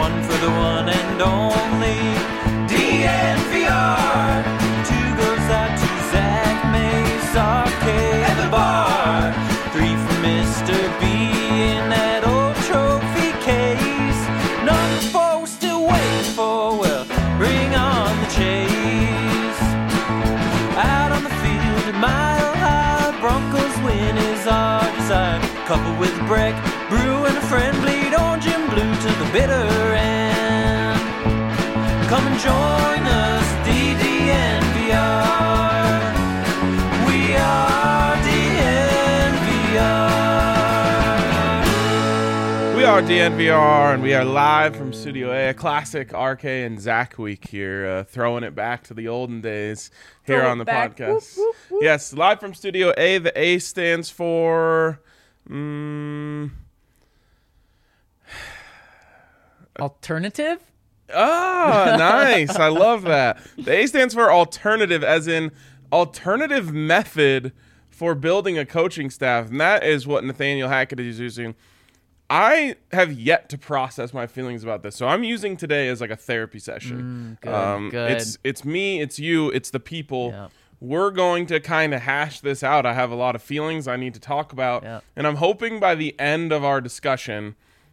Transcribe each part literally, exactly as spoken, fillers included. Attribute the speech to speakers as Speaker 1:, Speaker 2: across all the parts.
Speaker 1: one for the one and only D N V R. Two goes out to Zach Mace, R K at the bar. Three for Mister B in that old trophy case. Number four we're still waiting for, well, bring on the chase. Out on the field, a mile high, Broncos win is our desire. Coupled with Breck, Brew and a friend, bleed orange and blue to the bitter end. Come and join us, D D N V R. We are D N V R.
Speaker 2: We are D N V R, and we are live from Studio A, a classic R K and Zach week here, uh, throwing it back to the olden days here
Speaker 3: Throw
Speaker 2: on the
Speaker 3: back.
Speaker 2: podcast.
Speaker 3: Whoop, whoop, whoop.
Speaker 2: Yes, live from Studio A. The A stands for... Mm,
Speaker 3: Alternative?
Speaker 2: ah, nice. I love that. The A stands for alternative, as in alternative method for building a coaching staff. And that is what Nathaniel Hackett is using. I have yet to process my feelings about this. So I'm using today as like a therapy session.
Speaker 3: Mm, good,
Speaker 2: um,
Speaker 3: good.
Speaker 2: It's it's me, it's you, it's the people.
Speaker 3: Yep.
Speaker 2: We're going to kind of hash this out. I have a lot of feelings I need to talk about.
Speaker 3: Yep.
Speaker 2: And I'm hoping by the end of our discussion,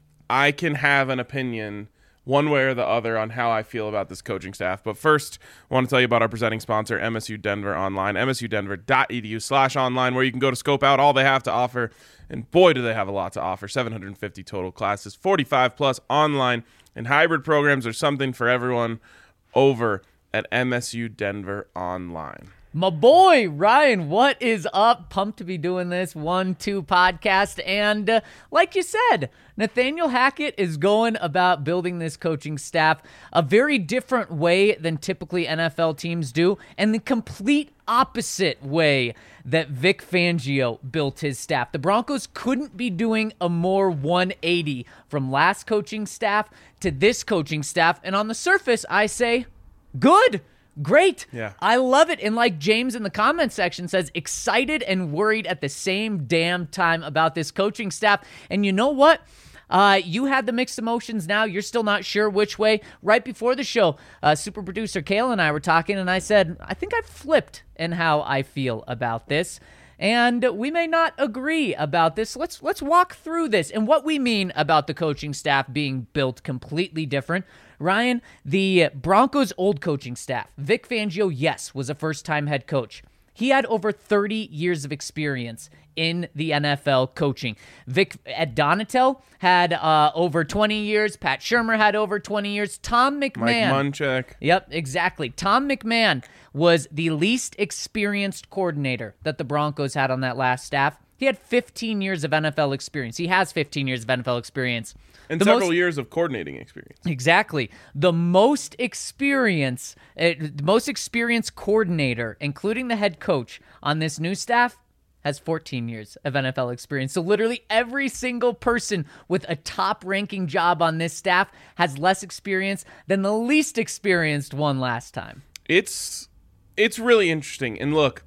Speaker 2: I can have an opinion one way or the other on how I feel about this coaching staff. But first, I want to tell you about our presenting sponsor, M S U Denver Online, m s u denver dot e d u slash online, where you can go to scope out all they have to offer. And boy, do they have a lot to offer. seven hundred fifty total classes, forty-five plus online, and hybrid programs are something for everyone over at M S U Denver Online.
Speaker 3: My boy, Ryan, what is up? Pumped to be doing this one two podcast. And uh, like you said, Nathaniel Hackett is going about building this coaching staff a very different way than typically N F L teams do, and the complete opposite way that Vic Fangio built his staff. The Broncos couldn't be doing a more one eighty from last coaching staff to this coaching staff. And on the surface, I say, good. Great.
Speaker 2: Yeah.
Speaker 3: I love it. And like James in the comment section says, excited and worried at the same damn time about this coaching staff. And you know what? Uh, you had the mixed emotions now. You're still not sure which way. Right before the show, uh, super producer Kale and I were talking, and I said, I think I've flipped in how I feel about this. And we may not agree about this. Let's let's walk through this and what we mean about the coaching staff being built completely different. Ryan, the Broncos' old coaching staff, Vic Fangio, yes, was a first-time head coach. He had over thirty years of experience in the N F L coaching. Vic Ed Donatel had uh, over twenty years. Pat Shurmur had over twenty years. Tom McMahon.
Speaker 2: Mike Munchak.
Speaker 3: Yep, exactly. Tom McMahon was the least experienced coordinator that the Broncos had on that last staff. He had fifteen years of N F L experience. He has fifteen years of N F L experience.
Speaker 2: And
Speaker 3: The
Speaker 2: several
Speaker 3: most-
Speaker 2: years of coordinating experience.
Speaker 3: Exactly. The most experience, uh, the most experienced coordinator, including the head coach on this new staff, has fourteen years of N F L experience. So literally every single person with a top-ranking job on this staff has less experience than the least experienced one last time.
Speaker 2: It's it's really interesting. And look,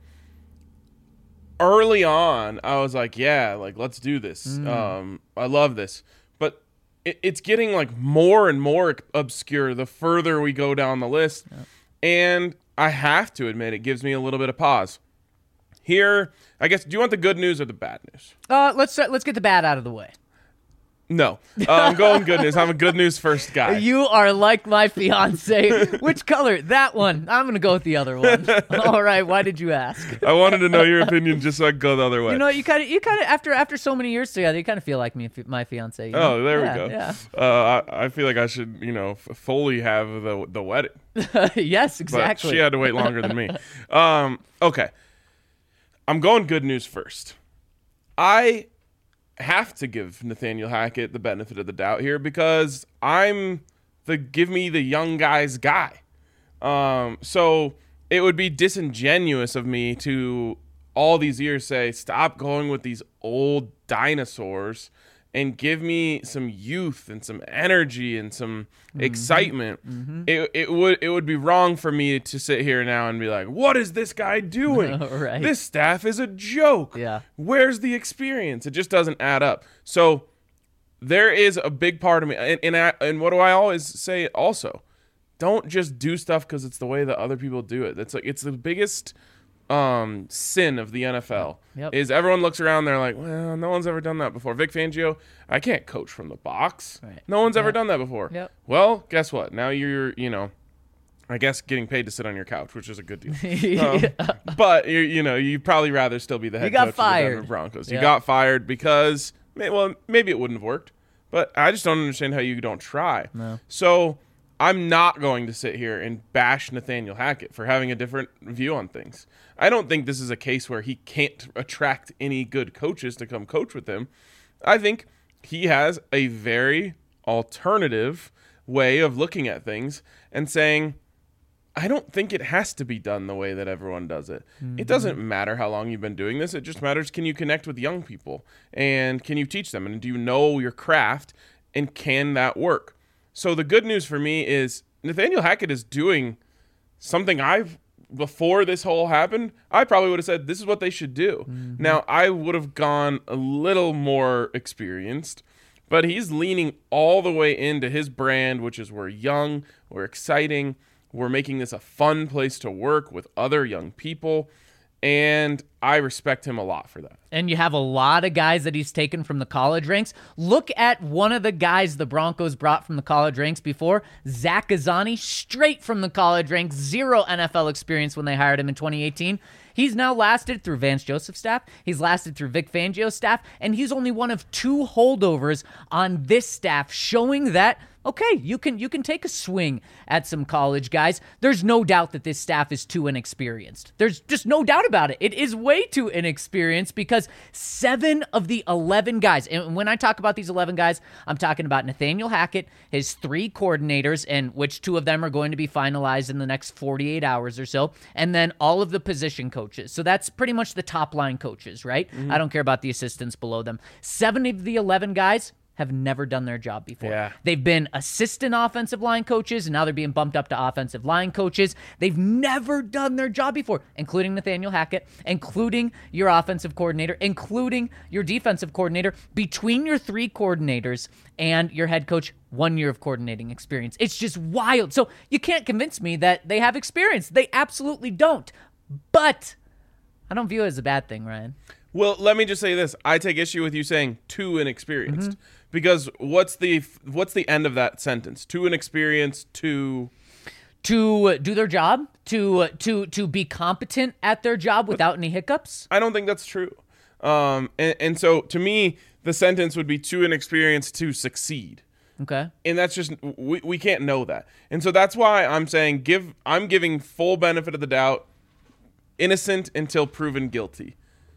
Speaker 2: early on, I was like, yeah, like, let's do this.
Speaker 3: Mm.
Speaker 2: Um, I love this. But it, it's getting, like, more and more obscure the further we go down the list. Yep. And I have to admit, it gives me a little bit of pause. Here, I guess, do you want the good news or the bad news?
Speaker 3: Uh, let's start, let's get the bad out of the way.
Speaker 2: No. Uh, I'm going good news. I'm a good news first guy.
Speaker 3: You are like my fiance. Which color? That one. I'm going to go with the other one. All right. Why did you ask?
Speaker 2: I wanted to know your opinion just so I could go the other way.
Speaker 3: You know, you kind of, you kind of, after after so many years together, you kind of feel like me, my fiance. You know?
Speaker 2: Oh, there
Speaker 3: yeah,
Speaker 2: we go.
Speaker 3: Yeah.
Speaker 2: Uh, I, I feel like I should, you know, f- fully have the the wedding.
Speaker 3: Yes,
Speaker 2: But
Speaker 3: exactly.
Speaker 2: she had to wait longer than me. Um, okay. I'm going good news first. I have to give Nathaniel Hackett the benefit of the doubt here because I'm the give me the young guy's guy. Um, so it would be disingenuous of me to all these years say, stop going with these old dinosaurs and give me some youth and some energy and some mm-hmm. excitement. Mm-hmm. It it would it would be wrong for me to sit here now and be like, what is this guy doing?
Speaker 3: Right.
Speaker 2: This staff is a joke.
Speaker 3: Yeah.
Speaker 2: Where's the experience? It just doesn't add up. So there is a big part of me, and and, I, and what do I always say also? Don't just do stuff because it's the way that other people do it. That's like it's the biggest um, sin of the N F L.
Speaker 3: Yep.
Speaker 2: Is everyone looks around, they're like, well, no one's ever done that before. Vic Fangio, I can't coach from the box.
Speaker 3: Right.
Speaker 2: No one's ever
Speaker 3: Yep.
Speaker 2: done that before.
Speaker 3: Yep.
Speaker 2: Well, guess what? Now you're, you know, I guess getting paid to sit on your couch, which is a good deal. Um, but you you know, you'd probably rather still be the head
Speaker 3: You got
Speaker 2: coach
Speaker 3: fired.
Speaker 2: of the Denver Broncos. You
Speaker 3: Yeah.
Speaker 2: got fired because, may- well, maybe it wouldn't have worked, but I just don't understand how you don't try.
Speaker 3: No.
Speaker 2: So I'm not going to sit here and bash Nathaniel Hackett for having a different view on things. I don't think this is a case where he can't attract any good coaches to come coach with him. I think he has a very alternative way of looking at things and saying, I don't think it has to be done the way that everyone does it. Mm-hmm. It doesn't matter how long you've been doing this. It just matters, can you connect with young people and can you teach them? And do you know your craft and can that work? So the good news for me is Nathaniel Hackett is doing something I've, before this whole happened, I probably would have said this is what they should do. Mm-hmm. Now, I would have gone a little more experienced, but he's leaning all the way into his brand, which is we're young, we're exciting, we're making this a fun place to work with other young people, and I respect him a lot for that.
Speaker 3: And you have a lot of guys that he's taken from the college ranks. Look at one of the guys the Broncos brought from the college ranks before, Zach Ghazzani, straight from the college ranks, zero N F L experience when they hired him in twenty eighteen. He's now lasted through Vance Joseph's staff, he's lasted through Vic Fangio's staff, and he's only one of two holdovers on this staff, showing that, okay, you can you can take a swing at some college guys. There's no doubt that this staff is too inexperienced. There's just no doubt about it. It is way too inexperienced because seven of the eleven guys, and when I talk about these eleven guys, I'm talking about Nathaniel Hackett, his three coordinators, and which two of them are going to be finalized in the next forty-eight hours or so, and then all of the position coaches. So that's pretty much the top line coaches, right? Mm-hmm. I don't care about the assistants below them. Seven of the eleven guys have never done their job before.
Speaker 2: Yeah.
Speaker 3: They've been assistant offensive line coaches, and now they're being bumped up to offensive line coaches. They've never done their job before, including Nathaniel Hackett, including your offensive coordinator, including your defensive coordinator. Between your three coordinators and your head coach, one year of coordinating experience. It's just wild. So you can't convince me that they have experience. They absolutely don't. But I don't view it as a bad thing, Ryan.
Speaker 2: Well, let me just say this. I take issue with you saying too inexperienced.
Speaker 3: Mm-hmm.
Speaker 2: Because what's the what's the end of that sentence? Too inexperienced, too...
Speaker 3: To do their job? To to to be competent at their job without any hiccups?
Speaker 2: I don't think that's true. Um, and, and so, to me, the sentence would be too inexperienced to succeed.
Speaker 3: Okay.
Speaker 2: And that's just... We, we can't know that. And so that's why I'm saying give. I'm giving full benefit of the doubt. Innocent until proven guilty.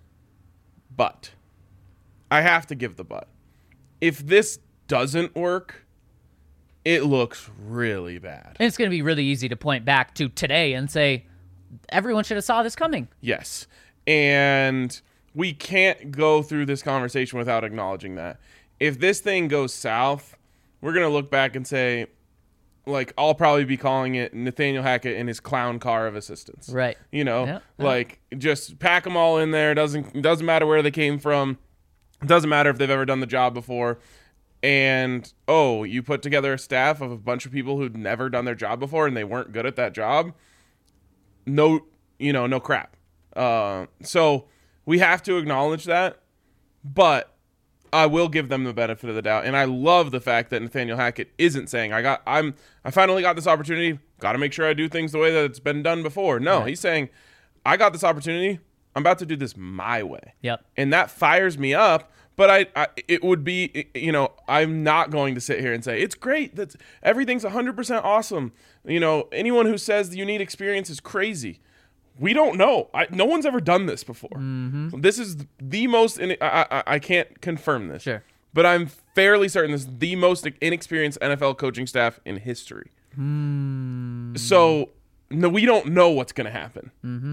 Speaker 2: But. I have to give the but. If this doesn't work, it looks really bad.
Speaker 3: And it's going to be really easy to point back to today and say, everyone should have saw this coming.
Speaker 2: Yes. And we can't go through this conversation without acknowledging that. If this thing goes south, we're going to look back and say, like, I'll probably be calling it Nathaniel Hackett and his clown car of assistants.
Speaker 3: Right.
Speaker 2: You know,
Speaker 3: yeah,
Speaker 2: like, yeah. just pack them all in there. Doesn't doesn't matter where they came from. It doesn't matter if they've ever done the job before. And, oh, you put together a staff of a bunch of people who'd never done their job before and they weren't good at that job. No, you know, no crap. Uh, so we have to acknowledge that. But I will give them the benefit of the doubt. And I love the fact that Nathaniel Hackett isn't saying, I got, I'm, I finally got this opportunity. Got to make sure I do things the way that it's been done before. No, right. He's saying, I got this opportunity. I'm about to do this my way.
Speaker 3: Yep.
Speaker 2: And that fires me up, but I, I it would be, you know, I'm not going to sit here and say, it's great, that's everything's one hundred percent awesome. You know, anyone who says you need experience is crazy. We don't know. I, no one's ever done this before. Mm-hmm. This is the most, in, I, I, I can't confirm this.
Speaker 3: Sure.
Speaker 2: But I'm fairly certain this is the most inexperienced N F L coaching staff in history.
Speaker 3: Mm.
Speaker 2: So, no, we don't know what's going to happen.
Speaker 3: Mm-hmm.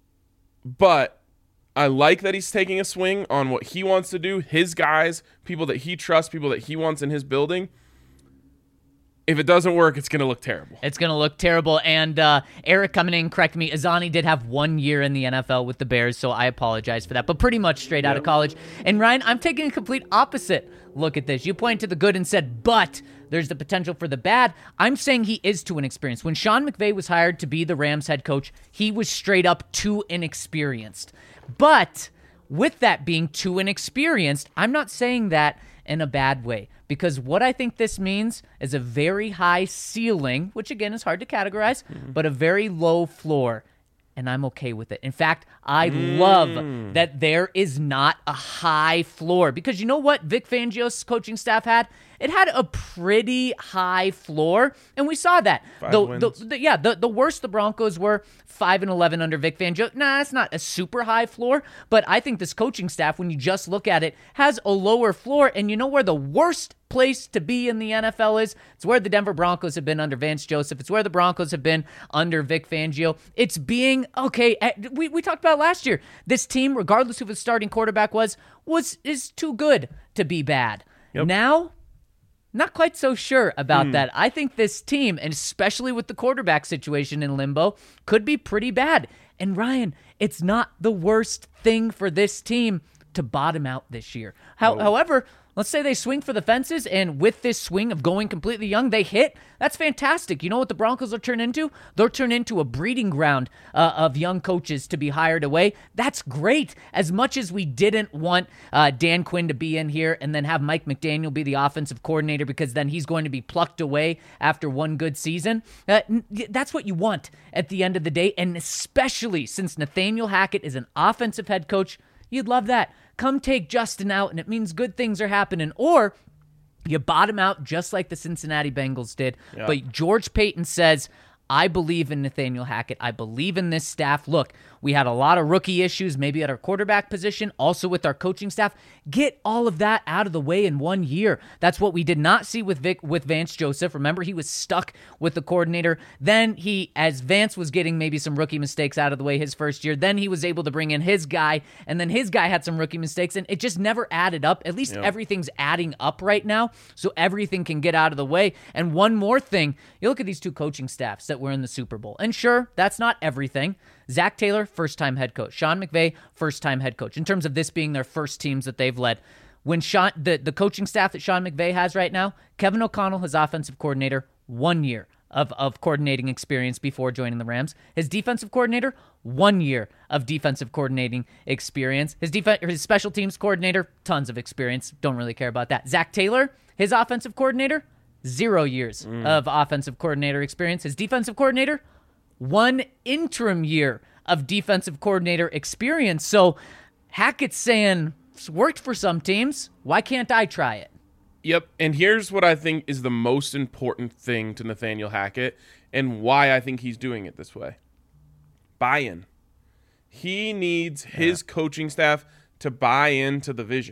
Speaker 2: But I like that he's taking a swing on what he wants to do, his guys, people that he trusts, people that he wants in his building. if it doesn't work, it's going to look terrible.
Speaker 3: It's going to look terrible. And uh, Eric coming in, correct me, Azani did have one year in the N F L with the Bears, so I apologize for that, but pretty much straight out of college. And Ryan, I'm taking a complete opposite look at this. You pointed to the good and said, but there's the potential for the bad. I'm saying he is too inexperienced. When Sean McVay was hired to be the Rams head coach, he was straight up too inexperienced. But with that being too inexperienced, I'm not saying that in a bad way, because what I think this means is a very high ceiling, which again is hard to categorize, mm-hmm. but a very low floor, and I'm okay with it. In fact, I mm. love that there is not a high floor, because you know what Vic Fangio's coaching staff had? It had a pretty high floor, and we saw that.
Speaker 2: Five
Speaker 3: the,
Speaker 2: wins.
Speaker 3: The, the, yeah, the, the worst the Broncos were, five and eleven under Vic Fangio. Nah, that's not a super high floor, but I think this coaching staff, when you just look at it, has a lower floor, and you know where the worst place to be in the N F L is? It's where the Denver Broncos have been under Vance Joseph. It's where the Broncos have been under Vic Fangio. It's being, okay, we, we talked about last year, this team, regardless of who the starting quarterback was, was is too good to be bad. Yep. Now, not quite so sure about mm. that. I think this team, and especially with the quarterback situation in limbo, could be pretty bad. And Ryan, it's not the worst thing for this team to bottom out this year. How, oh. However, let's say they swing for the fences, and with this swing of going completely young, they hit. That's fantastic. You know what the Broncos will turn into? They'll turn into a breeding ground uh, of young coaches to be hired away. That's great. As much as we didn't want uh, Dan Quinn to be in here and then have Mike McDaniel be the offensive coordinator, because then he's going to be plucked away after one good season, uh, that's what you want at the end of the day, and especially since Nathaniel Hackett is an offensive head coach, you'd love that. Come take Justin out, and it means good things are happening. Or you bottom out just like the Cincinnati Bengals did. Yeah. But George Payton says, I believe in Nathaniel Hackett. I believe in this staff. Look, we had a lot of rookie issues, maybe at our quarterback position, also with our coaching staff. Get all of that out of the way in one year. That's what we did not see with Vic, with Vance Joseph. Remember, he was stuck with the coordinator. Then he, as Vance was getting maybe some rookie mistakes out of the way his first year, then he was able to bring in his guy, and then his guy had some rookie mistakes, and it just never added up. At least yeah. everything's adding up right now, so everything can get out of the way. And one more thing, you look at these two coaching staffs that were in the Super Bowl, and sure, that's not everything. Zach Taylor, first-time head coach. Sean McVay, first-time head coach. In terms of this being their first teams that they've led. When Sean, the, the coaching staff that Sean McVay has right now, Kevin O'Connell, his offensive coordinator, one year of, of coordinating experience before joining the Rams. His defensive coordinator, one year of defensive coordinating experience. His def- his special teams coordinator, tons of experience. Don't really care about that. Zach Taylor, his offensive coordinator, zero years mm. of offensive coordinator experience. His defensive coordinator, one interim year of defensive coordinator experience. So Hackett's saying, it's worked for some teams. Why can't I try it?
Speaker 2: Yep. And here's what I think is the most important thing to Nathaniel Hackett and why I think he's doing it this way. Buy-in. He needs yeah. his coaching staff to buy into the vision.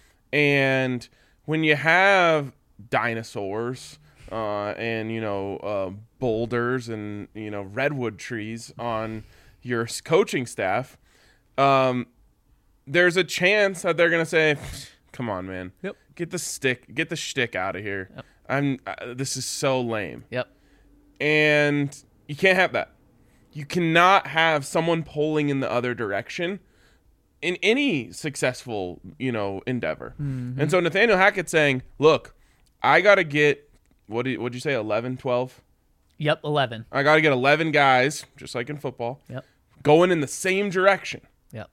Speaker 2: And when you have dinosaurs uh, and, you know, uh, boulders and, you know, redwood trees on your coaching staff, um, there's a chance that they're going to say, come on, man.
Speaker 3: Yep.
Speaker 2: Get the stick, get the shtick out of here.
Speaker 3: Yep.
Speaker 2: I'm. Uh, this is so lame.
Speaker 3: Yep.
Speaker 2: And you can't have that. You cannot have someone pulling in the other direction in any successful, you know, endeavor. Mm-hmm. And so Nathaniel Hackett saying, look, I got to get, what did what'd you say, eleven, twelve?
Speaker 3: Yep, eleven.
Speaker 2: I got to get eleven guys, just like in football,
Speaker 3: yep.
Speaker 2: going in the same direction.
Speaker 3: Yep.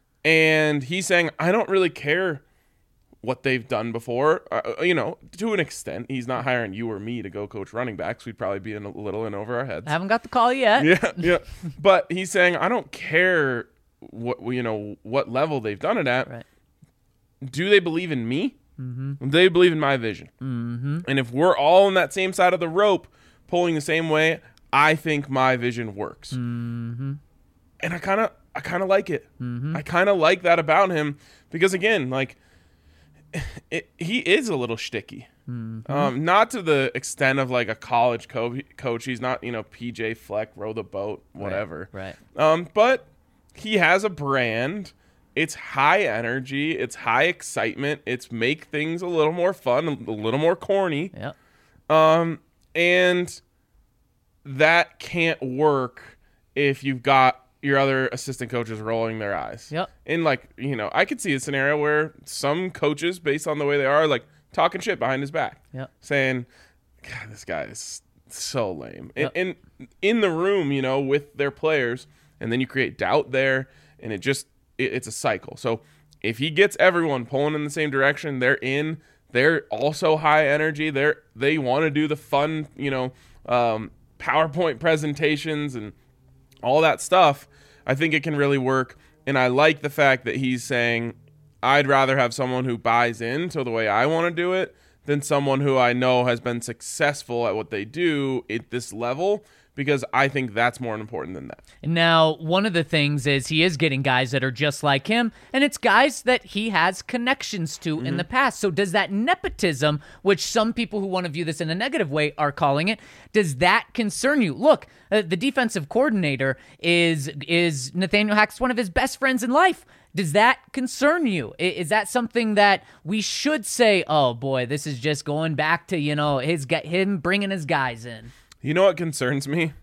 Speaker 2: And he's saying, I don't really care what they've done before. Uh, you know, to an extent, he's not hiring you or me to go coach running backs. We'd probably be in a little in over our heads.
Speaker 3: I haven't got the call yet.
Speaker 2: Yeah, yeah. But he's saying, I don't care what, you know, what level they've done it at.
Speaker 3: Right.
Speaker 2: Do they believe in me?
Speaker 3: Mm-hmm.
Speaker 2: They believe in my vision.
Speaker 3: Mm-hmm.
Speaker 2: And if we're all on that same side of the rope, pulling the same way, I think my vision works.
Speaker 3: Mm-hmm.
Speaker 2: And I kind of, I kind of like it.
Speaker 3: Mm-hmm.
Speaker 2: I kind of like that about him because, again, like, it, he is a little shticky.
Speaker 3: Mm-hmm.
Speaker 2: Um, not to the extent of like a college co- coach. He's not, you know, P J Fleck, row the boat, whatever.
Speaker 3: Right. right.
Speaker 2: Um, but he has a brand. It's high energy. It's high excitement. It's make things a little more fun, a little more corny.
Speaker 3: Yeah.
Speaker 2: Um, And that can't work if you've got your other assistant coaches rolling their eyes.
Speaker 3: Yep.
Speaker 2: And, like, you know, I could see a scenario where some coaches, based on the way they are, like, talking shit behind his back.
Speaker 3: Yep.
Speaker 2: Saying, God, this guy is so lame.
Speaker 3: Yep.
Speaker 2: And, and in the room, you know, with their players, and then you create doubt there, and it just, it, it's a cycle. So if he gets everyone pulling in the same direction, they're in, they're also high energy, they're, they want to do the fun, you know, um, PowerPoint presentations and all that stuff, I think it can really work. And I like the fact that he's saying, I'd rather have someone who buys into the way I want to do it than someone who I know has been successful at what they do at this level, because I think that's more important than that.
Speaker 3: Now, one of the things is he is getting guys that are just like him, and it's guys that he has connections to mm-hmm. in the past. So does that nepotism, which some people who want to view this in a negative way are calling it, does that concern you? Look, uh, the defensive coordinator is is Nathaniel Hackett's one of his best friends in life. Does that concern you? Is that something that we should say, oh boy, this is just going back to, you know, his him bringing his guys in?
Speaker 2: You know what concerns me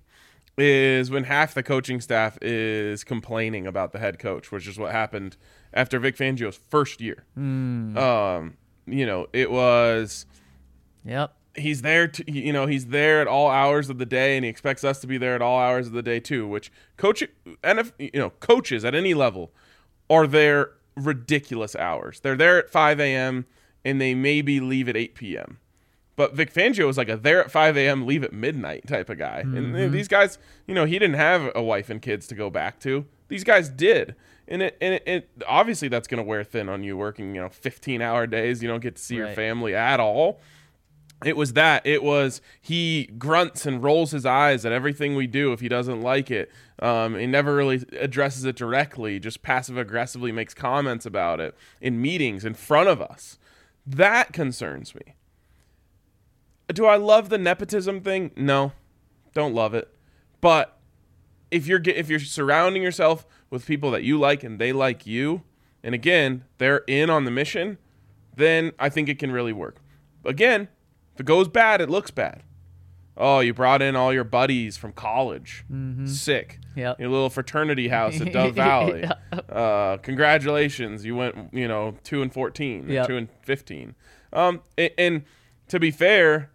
Speaker 2: is when half the coaching staff is complaining about the head coach, which is what happened after Vic Fangio's first year.
Speaker 3: Mm.
Speaker 2: Um, you know, it was,
Speaker 3: yep.
Speaker 2: He's there to, you know, he's there at all hours of the day, and he expects us to be there at all hours of the day too, which coach, and if, you know, coaches at any level are there ridiculous hours. They're there at five a.m. and they maybe leave at eight p.m. But Vic Fangio was like a there at five a.m., leave at midnight type of guy. Mm-hmm. And these guys, you know, he didn't have a wife and kids to go back to. These guys did. And it, and it, it obviously that's going to wear thin on you working, you know, fifteen-hour days. You don't get to see right. your family at all. It was that. It was he grunts and rolls his eyes at everything we do if he doesn't like it. Um, he never really addresses it directly, just passive-aggressively makes comments about it in meetings in front of us. That concerns me. Do I love the nepotism thing? No, don't love it. But if you're if you're surrounding yourself with people that you like and they like you, and again, they're in on the mission, then I think it can really work. Again, if it goes bad, it looks bad. Oh, you brought in all your buddies from college. Mm-hmm. Sick.
Speaker 3: Yep.
Speaker 2: Your little fraternity house at Dove Valley. Yep. Uh, congratulations. You went, you know, two and fourteen, or yep. two and fifteen. Um, and, and to be fair,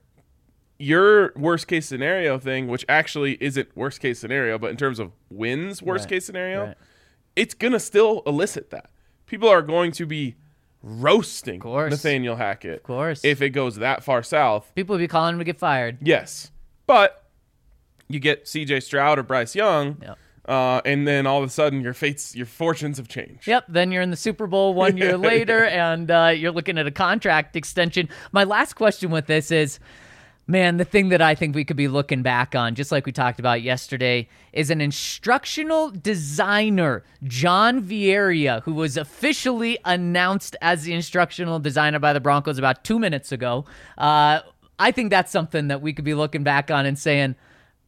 Speaker 2: your worst case scenario thing, which actually isn't worst case scenario, but in terms of wins worst
Speaker 3: right.
Speaker 2: case scenario,
Speaker 3: right.
Speaker 2: it's going to still elicit that. People are going to be roasting
Speaker 3: course.
Speaker 2: Nathaniel Hackett
Speaker 3: of course.
Speaker 2: if it goes that far south.
Speaker 3: People will be calling him to get fired.
Speaker 2: Yes. But you get C J Stroud or Bryce Young,
Speaker 3: yep.
Speaker 2: uh, and then all of a sudden your fates, your fortunes have changed.
Speaker 3: Yep. Then you're in the Super Bowl one year later, and uh, you're looking at a contract extension. My last question with this is, man, the thing that I think we could be looking back on, just like we talked about yesterday, is an instructional designer, John Vieira, who was officially announced as the instructional designer by the Broncos about two minutes ago. Uh, I think that's something that we could be looking back on and saying,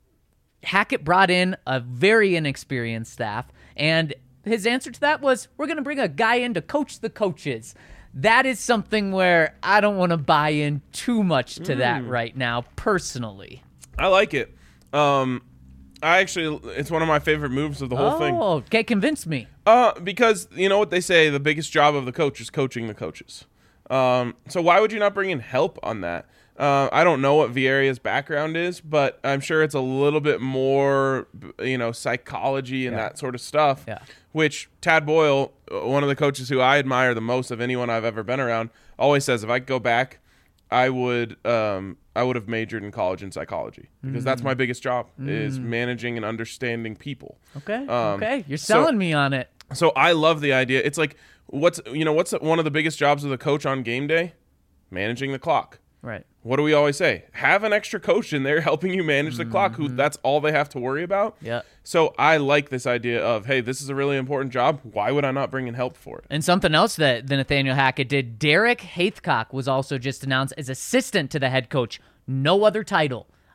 Speaker 3: Hackett brought in a very inexperienced staff, and his answer to that was, we're going to bring a guy in to coach the coaches. That is something where I don't want to buy in too much to mm. that right now, personally.
Speaker 2: I like it. Um, I actually, it's one of my favorite moves of the whole
Speaker 3: oh,
Speaker 2: thing.
Speaker 3: Oh, okay, convince me.
Speaker 2: Uh, because you know what they say, the biggest job of the coach is coaching the coaches. Um, so why would you not bring in help on that? Uh, I don't know what Vieira's background is, but I'm sure it's a little bit more, you know, psychology and
Speaker 3: yeah.
Speaker 2: that sort of stuff.
Speaker 3: Yeah.
Speaker 2: Which Tad Boyle, one of the coaches who I admire the most of anyone I've ever been around, always says if I could go back, I would um, I would have majored in college in psychology because mm. that's my biggest job mm. is managing and understanding people.
Speaker 3: Okay.
Speaker 2: Um,
Speaker 3: okay. You're selling
Speaker 2: so,
Speaker 3: me on it.
Speaker 2: So I love the idea. It's like what's you know what's one of the biggest jobs of the coach on game day? Managing the clock.
Speaker 3: Right.
Speaker 2: What do we always say? Have an extra coach in there helping you manage the mm-hmm. clock who that's all they have to worry about.
Speaker 3: Yeah.
Speaker 2: So I like this idea of, hey, this is a really important job. Why would I not bring in help for it?
Speaker 3: And something else that the Nathaniel Hackett did, Derek Haithcock was also just announced as assistant to the head coach. No other title.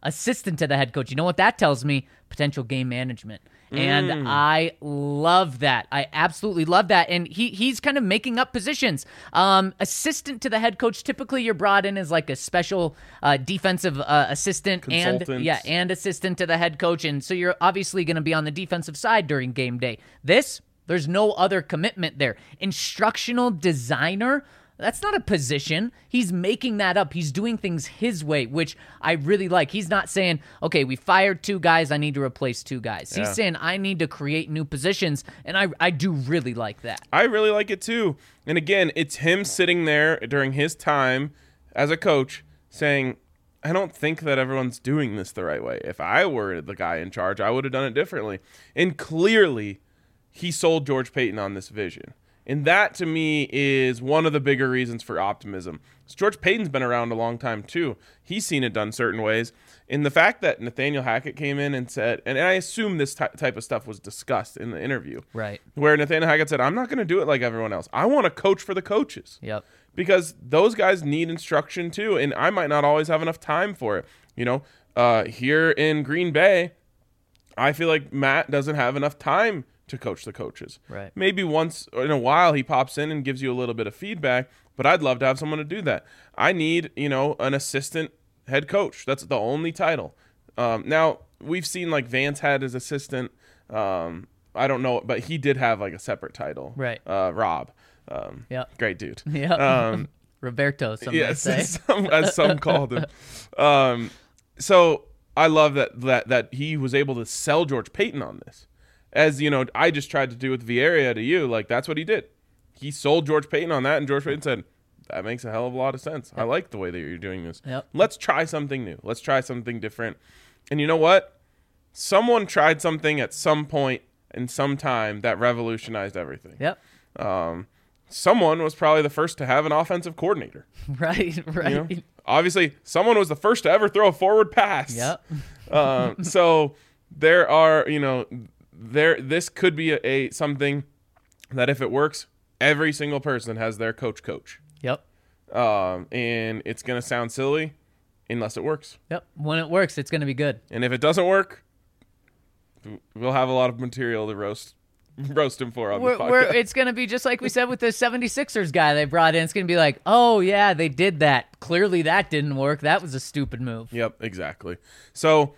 Speaker 3: assistant to the head coach. You know what that tells me? Potential game management. And mm. I love that. I absolutely love that. And he he's kind of making up positions. Um, assistant to the head coach, typically you're brought in as like a special uh, defensive uh, assistant and yeah, and assistant to the head coach. And so you're obviously going to be on the defensive side during game day. This, there's no other commitment there. Instructional designer, that's not a position. He's making that up. He's doing things his way, which I really like. He's not saying, okay, we fired two guys, I need to replace two guys. Yeah. He's saying, I need to create new positions, and I, I do really like that.
Speaker 2: I really like it too. And again, it's him sitting there during his time as a coach saying, I don't think that everyone's doing this the right way. If I were the guy in charge, I would have done it differently. And clearly, he sold George Paton on this vision. And that, to me, is one of the bigger reasons for optimism. George Paton's been around a long time, too. He's seen it done certain ways. And the fact that Nathaniel Hackett came in and said, and I assume this ty- type of stuff was discussed in the interview.
Speaker 3: Right.
Speaker 2: Where Nathaniel Hackett said, I'm not going to do it like everyone else. I want to coach for the coaches.
Speaker 3: Yep.
Speaker 2: Because those guys need instruction, too. And I might not always have enough time for it. You know, uh, here in Green Bay, I feel like Matt doesn't have enough time to coach the coaches.
Speaker 3: Right.
Speaker 2: Maybe once in a while he pops in and gives you a little bit of feedback, but I'd love to have someone to do that. I need, you know, an assistant head coach. That's the only title. Um, now, we've seen like Vance had his assistant. Um, I don't know, but he did have like a separate title.
Speaker 3: Right.
Speaker 2: Uh, Rob. Um,
Speaker 3: yeah.
Speaker 2: Great dude.
Speaker 3: Yeah.
Speaker 2: Um,
Speaker 3: Roberto, some
Speaker 2: yes,
Speaker 3: might say.
Speaker 2: as some, as some called him. Um, so I love that, that, that he was able to sell George Paton on this. As, you know, I just tried to do with Vieira to you, like, that's what he did. He sold George Paton on that, and George Paton said, that makes a hell of a lot of sense. I like the way that you're doing this.
Speaker 3: Yep.
Speaker 2: Let's try something new. Let's try something different. And you know what? Someone tried something at some point in some time that revolutionized everything.
Speaker 3: Yep.
Speaker 2: Um, someone was probably the first to have an offensive coordinator.
Speaker 3: Right, right.
Speaker 2: You know? Obviously, someone was the first to ever throw a forward pass.
Speaker 3: Yep.
Speaker 2: um, so there are, you know... There, this could be a, a something that if it works, every single person has their coach coach.
Speaker 3: Yep.
Speaker 2: Um, and it's gonna sound silly, unless it works.
Speaker 3: Yep. When it works, it's gonna be good.
Speaker 2: And if it doesn't work, we'll have a lot of material to roast, roast him for on
Speaker 3: we're,
Speaker 2: the podcast.
Speaker 3: We're, it's gonna be just like we said with the seventy-sixers guy they brought in. It's gonna be like, oh yeah, they did that. Clearly that didn't work. That was a stupid move.
Speaker 2: Yep, exactly. So.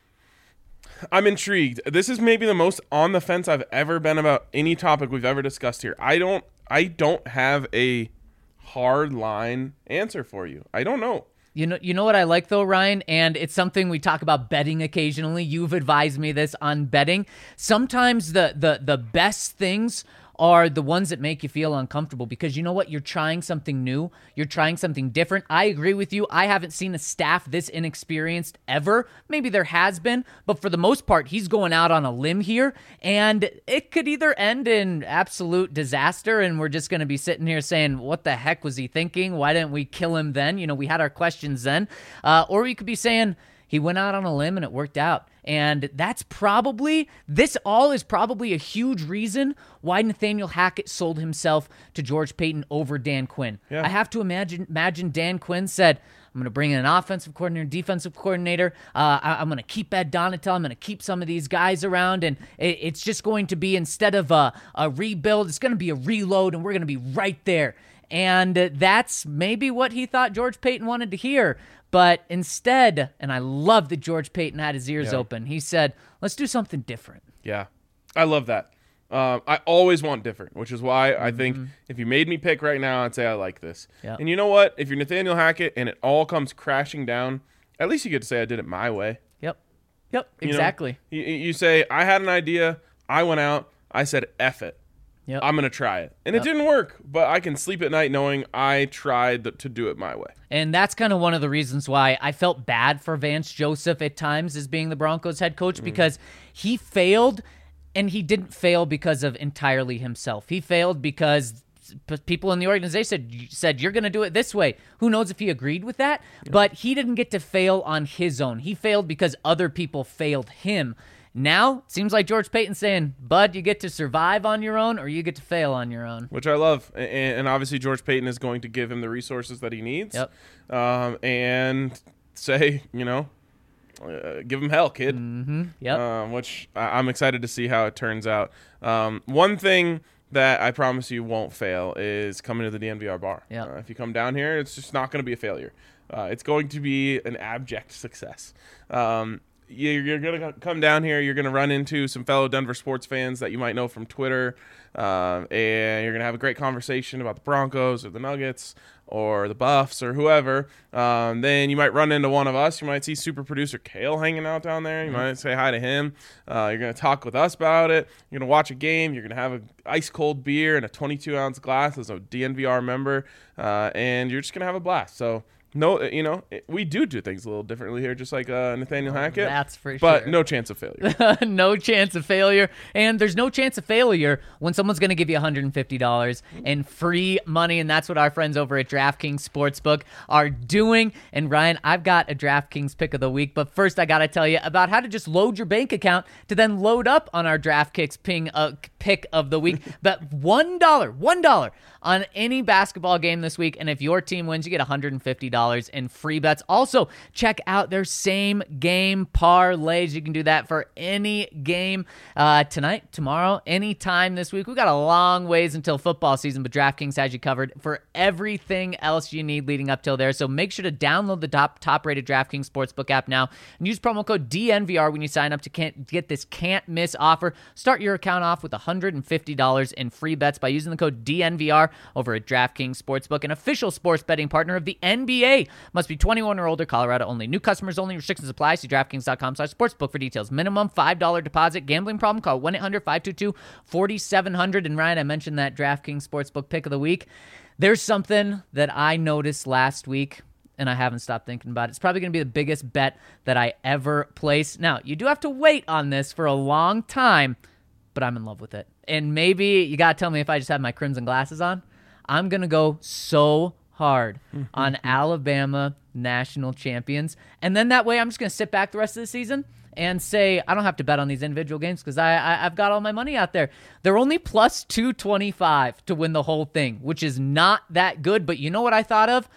Speaker 2: I'm intrigued. This is maybe the most on the fence I've ever been about any topic we've ever discussed here. I don't I don't have a hard line answer for you. I don't know.
Speaker 3: You know, you know what I like though, Ryan, and it's something we talk about betting occasionally. You've advised me this on betting. Sometimes the the the best things are the ones that make you feel uncomfortable because you know what? You're trying something new. You're trying something different. I agree with you. I haven't seen a staff this inexperienced ever. Maybe there has been, but for the most part, he's going out on a limb here, and it could either end in absolute disaster, and we're just going to be sitting here saying, what the heck was he thinking? Why didn't we kill him then? You know, we had our questions then. Uh, or we could be saying, he went out on a limb and it worked out. And that's probably, this all is probably a huge reason why Nathaniel Hackett sold himself to George Paton over Dan Quinn.
Speaker 2: Yeah.
Speaker 3: I have to imagine imagine Dan Quinn said, I'm going to bring in an offensive coordinator, defensive coordinator. Uh, I, I'm going to keep Ed Donatel. I'm going to keep some of these guys around. And it, it's just going to be, instead of a, a rebuild, it's going to be a reload, and we're going to be right there. And that's maybe what he thought George Paton wanted to hear. But instead, and I love that George Paton had his ears
Speaker 2: yeah.
Speaker 3: open, he said, let's do something different.
Speaker 2: Yeah, I love that. Um, I always want different, which is why I mm-hmm. think if you made me pick right now, I'd say I like this.
Speaker 3: Yeah.
Speaker 2: And you know what? If you're Nathaniel Hackett and it all comes crashing down, at least you get to say I did it my way.
Speaker 3: Yep. Yep,
Speaker 2: You know,
Speaker 3: exactly.
Speaker 2: you, you say, I had an idea, I went out, I said, F it.
Speaker 3: Yep.
Speaker 2: I'm going to try it. And
Speaker 3: Yep.
Speaker 2: it didn't work, but I can sleep at night knowing I tried th- to do it my way.
Speaker 3: And that's kind of one of the reasons why I felt bad for Vance Joseph at times as being the Broncos head coach, mm. because he failed, and he didn't fail because of entirely himself. He failed because people in the organization said, said you're going to do it this way. Who knows if he agreed with that? Yeah. But he didn't get to fail on his own. He failed because other people failed him. Now, it seems like George Paton's saying, Bud, you get to survive on your own or you get to fail on your own.
Speaker 2: Which I love. And, and obviously George Paton is going to give him the resources that he needs.
Speaker 3: Yep.
Speaker 2: Um, and say, you know, uh, give them hell, kid.
Speaker 3: Mm-hmm. Yep.
Speaker 2: Um, which I- I'm excited to see how it turns out. Um, one thing that I promise you won't fail is coming to the D N V R bar.
Speaker 3: Yep.
Speaker 2: Uh, if you come down here, it's just not going to be a failure. Uh, it's going to be an abject success. Um, you're, you're going to come down here. You're going to run into some fellow Denver sports fans that you might know from Twitter, um, and you're going to have a great conversation about the Broncos or the Nuggets or the Buffs or whoever. Um, then you might run into one of us. You might see super producer Kale hanging out down there. You mm-hmm. might say hi to him. Uh, you're going to talk with us about it. You're going to watch a game. You're going to have an ice cold beer in a twenty-two ounce glass as a D N V R member, uh, and you're just going to have a blast. So, no, you know, we do do things a little differently here, just like uh, Nathaniel Hackett.
Speaker 3: That's for
Speaker 2: but
Speaker 3: sure.
Speaker 2: But no chance of failure.
Speaker 3: No chance of failure. And there's no chance of failure when someone's going to give you one hundred fifty dollars in free money, and that's what our friends over at DraftKings Sportsbook are doing. And, Ryan, I've got a DraftKings pick of the week, but first I got to tell you about how to just load your bank account to then load up on our DraftKings ping, uh, pick of the week. Bet one dollar, one dollar on any basketball game this week, and if your team wins, you get one hundred fifty dollars in free bets. Also, check out their same game parlays. You can do that for any game uh, tonight, tomorrow, anytime this week. We've got a long ways until football season, but DraftKings has you covered for everything else you need leading up till there. So make sure to download the top top-rated DraftKings Sportsbook app now and use promo code D N V R when you sign up to can't get this can't-miss offer. Start your account off with one hundred fifty dollars in free bets by using the code D N V R over at DraftKings Sportsbook, an official sports betting partner of the N B A. Must be twenty-one or older, Colorado only. New customers only. Restrictions apply. See DraftKings.com slash sportsbook for details. Minimum five dollars deposit. Gambling problem? Call one eight hundred five two two four seven zero zero. And Ryan, I mentioned that DraftKings Sportsbook pick of the week. There's something that I noticed last week, and I haven't stopped thinking about it. It's probably going to be the biggest bet that I ever place. Now, you do have to wait on this for a long time, but I'm in love with it. And maybe you got to tell me if I just have my crimson glasses on. I'm going to go so hard on Alabama national champions. And then that way I'm just going to sit back the rest of the season and say, I don't have to bet on these individual games because I, I, I've got all my money out there. They're only plus two twenty-five to win the whole thing, which is not that good. But you know what I thought of?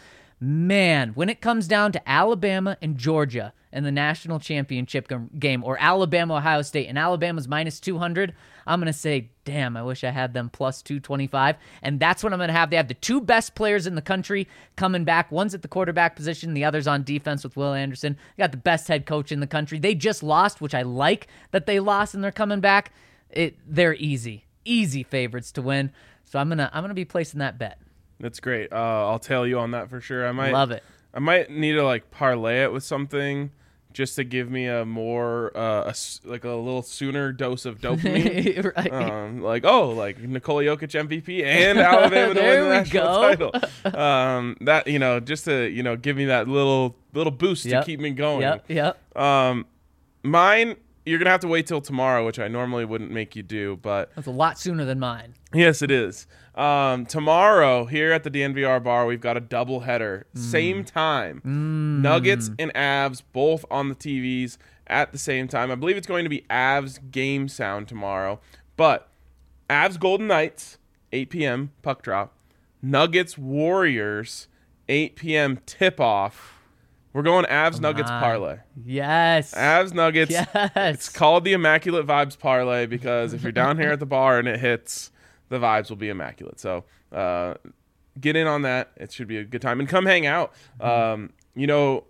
Speaker 3: Man, when it comes down to Alabama and Georgia in the national championship game, or Alabama, Ohio State, and Alabama's minus two hundred, I'm going to say, damn, I wish I had them plus two twenty-five. And that's what I'm going to have. They have the two best players in the country coming back. One's at the quarterback position, the other's on defense with Will Anderson. They got the best head coach in the country. They just lost, which I like that they lost and they're coming back. It, they're easy, easy favorites to win. So I'm going to I'm going to be placing that bet.
Speaker 2: That's great. Uh, I'll tell you on that for sure. I might
Speaker 3: love it.
Speaker 2: I might need to like parlay it with something just to give me a more uh, a s like a little sooner dose of dopamine.
Speaker 3: Right.
Speaker 2: Um, like oh, like Nikola Jokic M V P and Alabama to win the national
Speaker 3: go.
Speaker 2: title. Um, that you know, just to you know, give me that little little boost
Speaker 3: Yep.
Speaker 2: to keep me going.
Speaker 3: Yep. Yep.
Speaker 2: Um, mine. You're gonna have to wait till tomorrow, which I normally wouldn't make you do, but
Speaker 3: That's a lot sooner than mine.
Speaker 2: yes, it is. Um, tomorrow here at the D N V R bar, we've got a double header,
Speaker 3: Mm.
Speaker 2: same time. Nuggets and Avs both on the T Vs at the same time. I believe it's going to be Avs game sound tomorrow, but Avs Golden Knights eight p m puck drop. Nuggets Warriors eight p m tip off. We're going Avs Nuggets
Speaker 3: on.
Speaker 2: parlay.
Speaker 3: Yes.
Speaker 2: Avs Nuggets.
Speaker 3: Yes.
Speaker 2: It's called the Immaculate Vibes parlay because if you're down here at the bar and it hits, the vibes will be immaculate. So uh, get in on that. It should be a good time. And come hang out. Um, you know,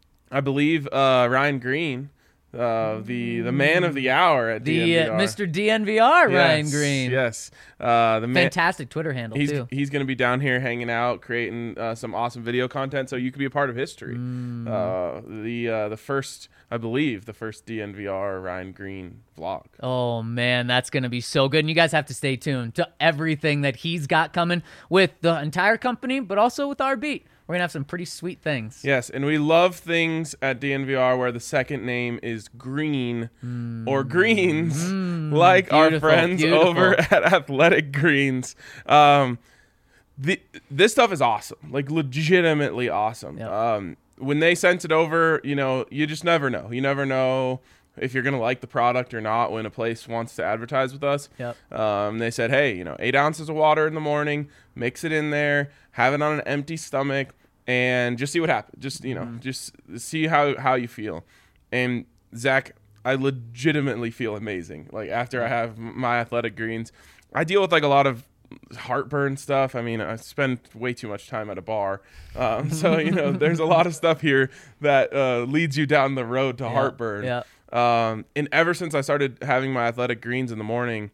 Speaker 2: I believe uh, Ryan Green, uh, the the man of the hour at
Speaker 3: the
Speaker 2: D N V R.
Speaker 3: uh, Mister D N V R, Ryan
Speaker 2: Yes,
Speaker 3: Green.
Speaker 2: Yes. Uh, the man.
Speaker 3: Fantastic Twitter handle,
Speaker 2: He's,
Speaker 3: too.
Speaker 2: he's going to be down here hanging out, creating uh, some awesome video content, so you can be a part of history.
Speaker 3: Mm.
Speaker 2: Uh, the uh, the first, I believe, the first D N V R Ryan Green vlog.
Speaker 3: Oh, man, that's going to be so good. And you guys have to stay tuned to everything that he's got coming with the entire company, but also with our beat. We're going to have some pretty sweet things.
Speaker 2: Yes, and we love things at D N V R where the second name is Green
Speaker 3: Mm.
Speaker 2: or Greens, mm. like
Speaker 3: Beautiful,
Speaker 2: our friends
Speaker 3: beautiful.
Speaker 2: over at Athletic Greens. Um, the, this stuff is awesome, like legitimately awesome.
Speaker 3: Yep.
Speaker 2: Um, when they sent it over, you know, you just never know. You never know if you're going to like the product or not when a place wants to advertise with us.
Speaker 3: Yep.
Speaker 2: Um, they said, hey, you know, eight ounces of water in the morning, mix it in there, have it on an empty stomach, and just see what happens. Just, you know, mm. just see how, how you feel. And Zach, I legitimately feel amazing. Like after I have my Athletic Greens, I deal with like a lot of heartburn stuff. I mean, I spend way too much time at a bar. Um, so, you know, there's a lot of stuff here that uh, leads you down the road to
Speaker 3: Yeah,
Speaker 2: heartburn.
Speaker 3: yeah.
Speaker 2: Um, and ever since I started having my Athletic Greens in the morning,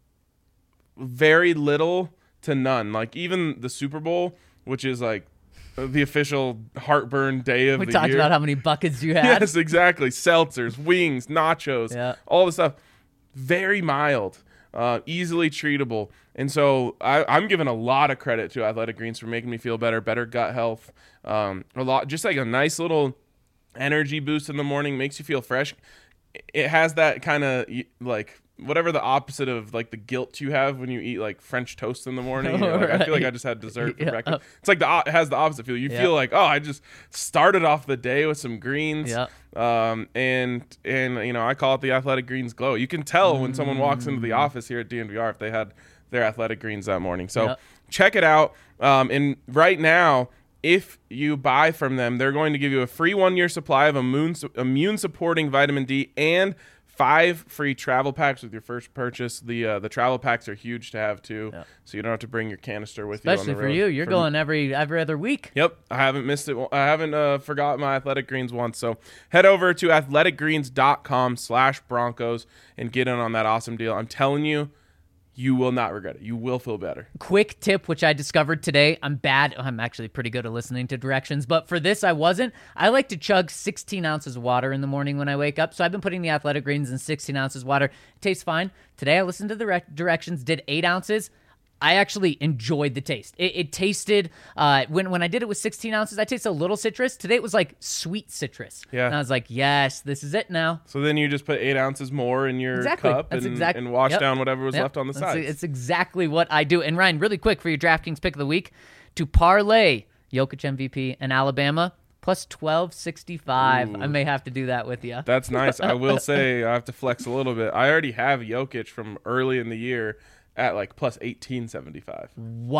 Speaker 2: very little to none. Like even the Super Bowl, which is like the official heartburn day of
Speaker 3: We
Speaker 2: the
Speaker 3: talked
Speaker 2: year.
Speaker 3: about how many buckets you had.
Speaker 2: Yes, exactly. Seltzers, wings, nachos,
Speaker 3: Yeah.
Speaker 2: all the stuff. Very mild, uh, easily treatable. And so I, I'm giving a lot of credit to Athletic Greens for making me feel better, better gut health. Um, a lot, just like a nice little energy boost in the morning, makes you feel fresh. It has that kind of like whatever the opposite of like the guilt you have when you eat like French toast in the morning. You're like, I feel like I just had dessert for
Speaker 3: Yeah.
Speaker 2: breakfast. It's like the o- it has the opposite feel. You
Speaker 3: Yeah.
Speaker 2: feel like, oh, I just started off the day with some greens.
Speaker 3: Yeah.
Speaker 2: Um, and and you know, I call it the Athletic Greens glow. You can tell when someone walks into the office here at D N V R if they had their Athletic Greens that morning. So
Speaker 3: Yeah.
Speaker 2: check it out. Um, and right now, if you buy from them, they're going to give you a free one-year supply of immune immune-supporting vitamin D and five free travel packs with your first purchase. The uh, the travel packs are huge to have too,
Speaker 3: Yeah.
Speaker 2: so you don't have to bring your canister with
Speaker 3: Especially
Speaker 2: you on the
Speaker 3: for
Speaker 2: road.
Speaker 3: you. You're
Speaker 2: For-
Speaker 3: going every every other week.
Speaker 2: Yep, I haven't missed it. I haven't uh, forgot my Athletic Greens once. So head over to athletic greens dot com slash Broncos and get in on that awesome deal. I'm telling you, you will not regret it. You will feel better.
Speaker 3: Quick tip, which I discovered today. I'm bad. I'm actually pretty good at listening to directions, but for this, I wasn't. I like to chug sixteen ounces of water in the morning when I wake up. So I've been putting the Athletic Greens in sixteen ounces of water. It tastes fine. Today, I listened to the rec- directions, did eight ounces. I actually enjoyed the taste. It, it tasted, uh, when, when I did it with sixteen ounces, I tasted a little citrus. Today, it was like sweet citrus.
Speaker 2: Yeah.
Speaker 3: And I was like, yes, this is it now.
Speaker 2: So then you just put eight ounces more in your
Speaker 3: Exactly.
Speaker 2: cup
Speaker 3: That's
Speaker 2: and,
Speaker 3: exact-
Speaker 2: and wash
Speaker 3: yep.
Speaker 2: down whatever was
Speaker 3: Yep.
Speaker 2: left on the
Speaker 3: That's-
Speaker 2: sides.
Speaker 3: It's exactly what I do. And Ryan, really quick for your DraftKings pick of the week, to parlay Jokic M V P and Alabama plus twelve sixty-five. I may have to do that with you.
Speaker 2: That's nice. I will say I have to flex a little bit. I already have Jokic from early in the year at like plus eighteen seventy-five.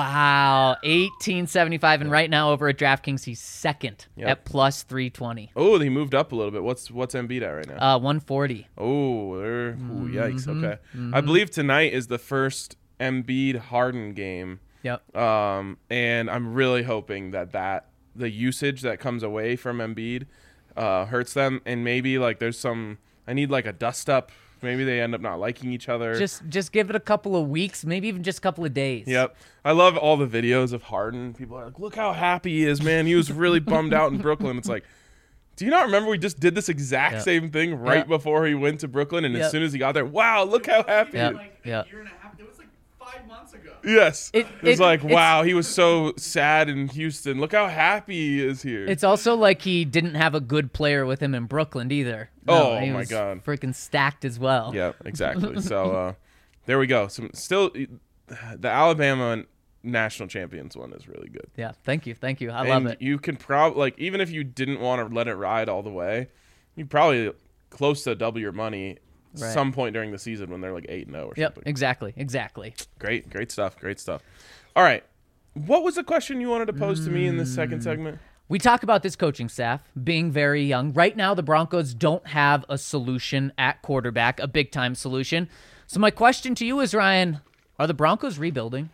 Speaker 3: Wow, eighteen seventy-five, and right now over at DraftKings he's second
Speaker 2: Yep.
Speaker 3: at plus three twenty.
Speaker 2: Oh, he moved up a little bit. What's what's Embiid at right now?
Speaker 3: Uh, one forty.
Speaker 2: Oh, they're, ooh, yikes.
Speaker 3: Mm-hmm.
Speaker 2: Okay. I believe tonight is the first Embiid Harden game.
Speaker 3: Yep.
Speaker 2: Um, and I'm really hoping that that the usage that comes away from Embiid uh, hurts them, and maybe like there's some. I need like a dust up. Maybe they end up not liking each other.
Speaker 3: Just just give it a couple of weeks, maybe even just a couple of days.
Speaker 2: Yep. I love all the videos of Harden. People are like, look how happy he is, man. He was really bummed out in Brooklyn. It's like, do you not remember we just did this exact
Speaker 3: Yep.
Speaker 2: same thing right
Speaker 3: Yep.
Speaker 2: before he went to Brooklyn? And
Speaker 3: Yep.
Speaker 2: as soon as he got there, wow, look how happy
Speaker 3: Yep.
Speaker 2: he is.
Speaker 4: Like
Speaker 3: Yeah.
Speaker 4: a year and a half. It was like five months ago.
Speaker 2: Yes.
Speaker 3: It-
Speaker 2: it's
Speaker 3: it-
Speaker 2: like,
Speaker 3: it's-
Speaker 2: wow, he was so sad in Houston. Look how happy he is here.
Speaker 3: It's also like he didn't have a good player with him in Brooklyn either.
Speaker 2: Oh,
Speaker 3: he
Speaker 2: my
Speaker 3: was
Speaker 2: God.
Speaker 3: freaking stacked as well.
Speaker 2: Yeah, exactly. So uh, there we go. Some still, the Alabama national champions one is really good.
Speaker 3: Yeah, thank you, thank you. I
Speaker 2: and
Speaker 3: love it.
Speaker 2: You can probably like even if you didn't want to let it ride all the way, you probably close to double your money
Speaker 3: Right.
Speaker 2: some point during the season when they're like eight and zero or
Speaker 3: Yep,
Speaker 2: something.
Speaker 3: exactly, exactly.
Speaker 2: Great, great stuff. Great stuff. All right, what was the question you wanted to pose to me in this
Speaker 3: Mm.
Speaker 2: second segment?
Speaker 3: We talk about this coaching staff being very young. Right now, the Broncos don't have a solution at quarterback, a big-time solution. So my question to you is, Ryan, are the Broncos rebuilding?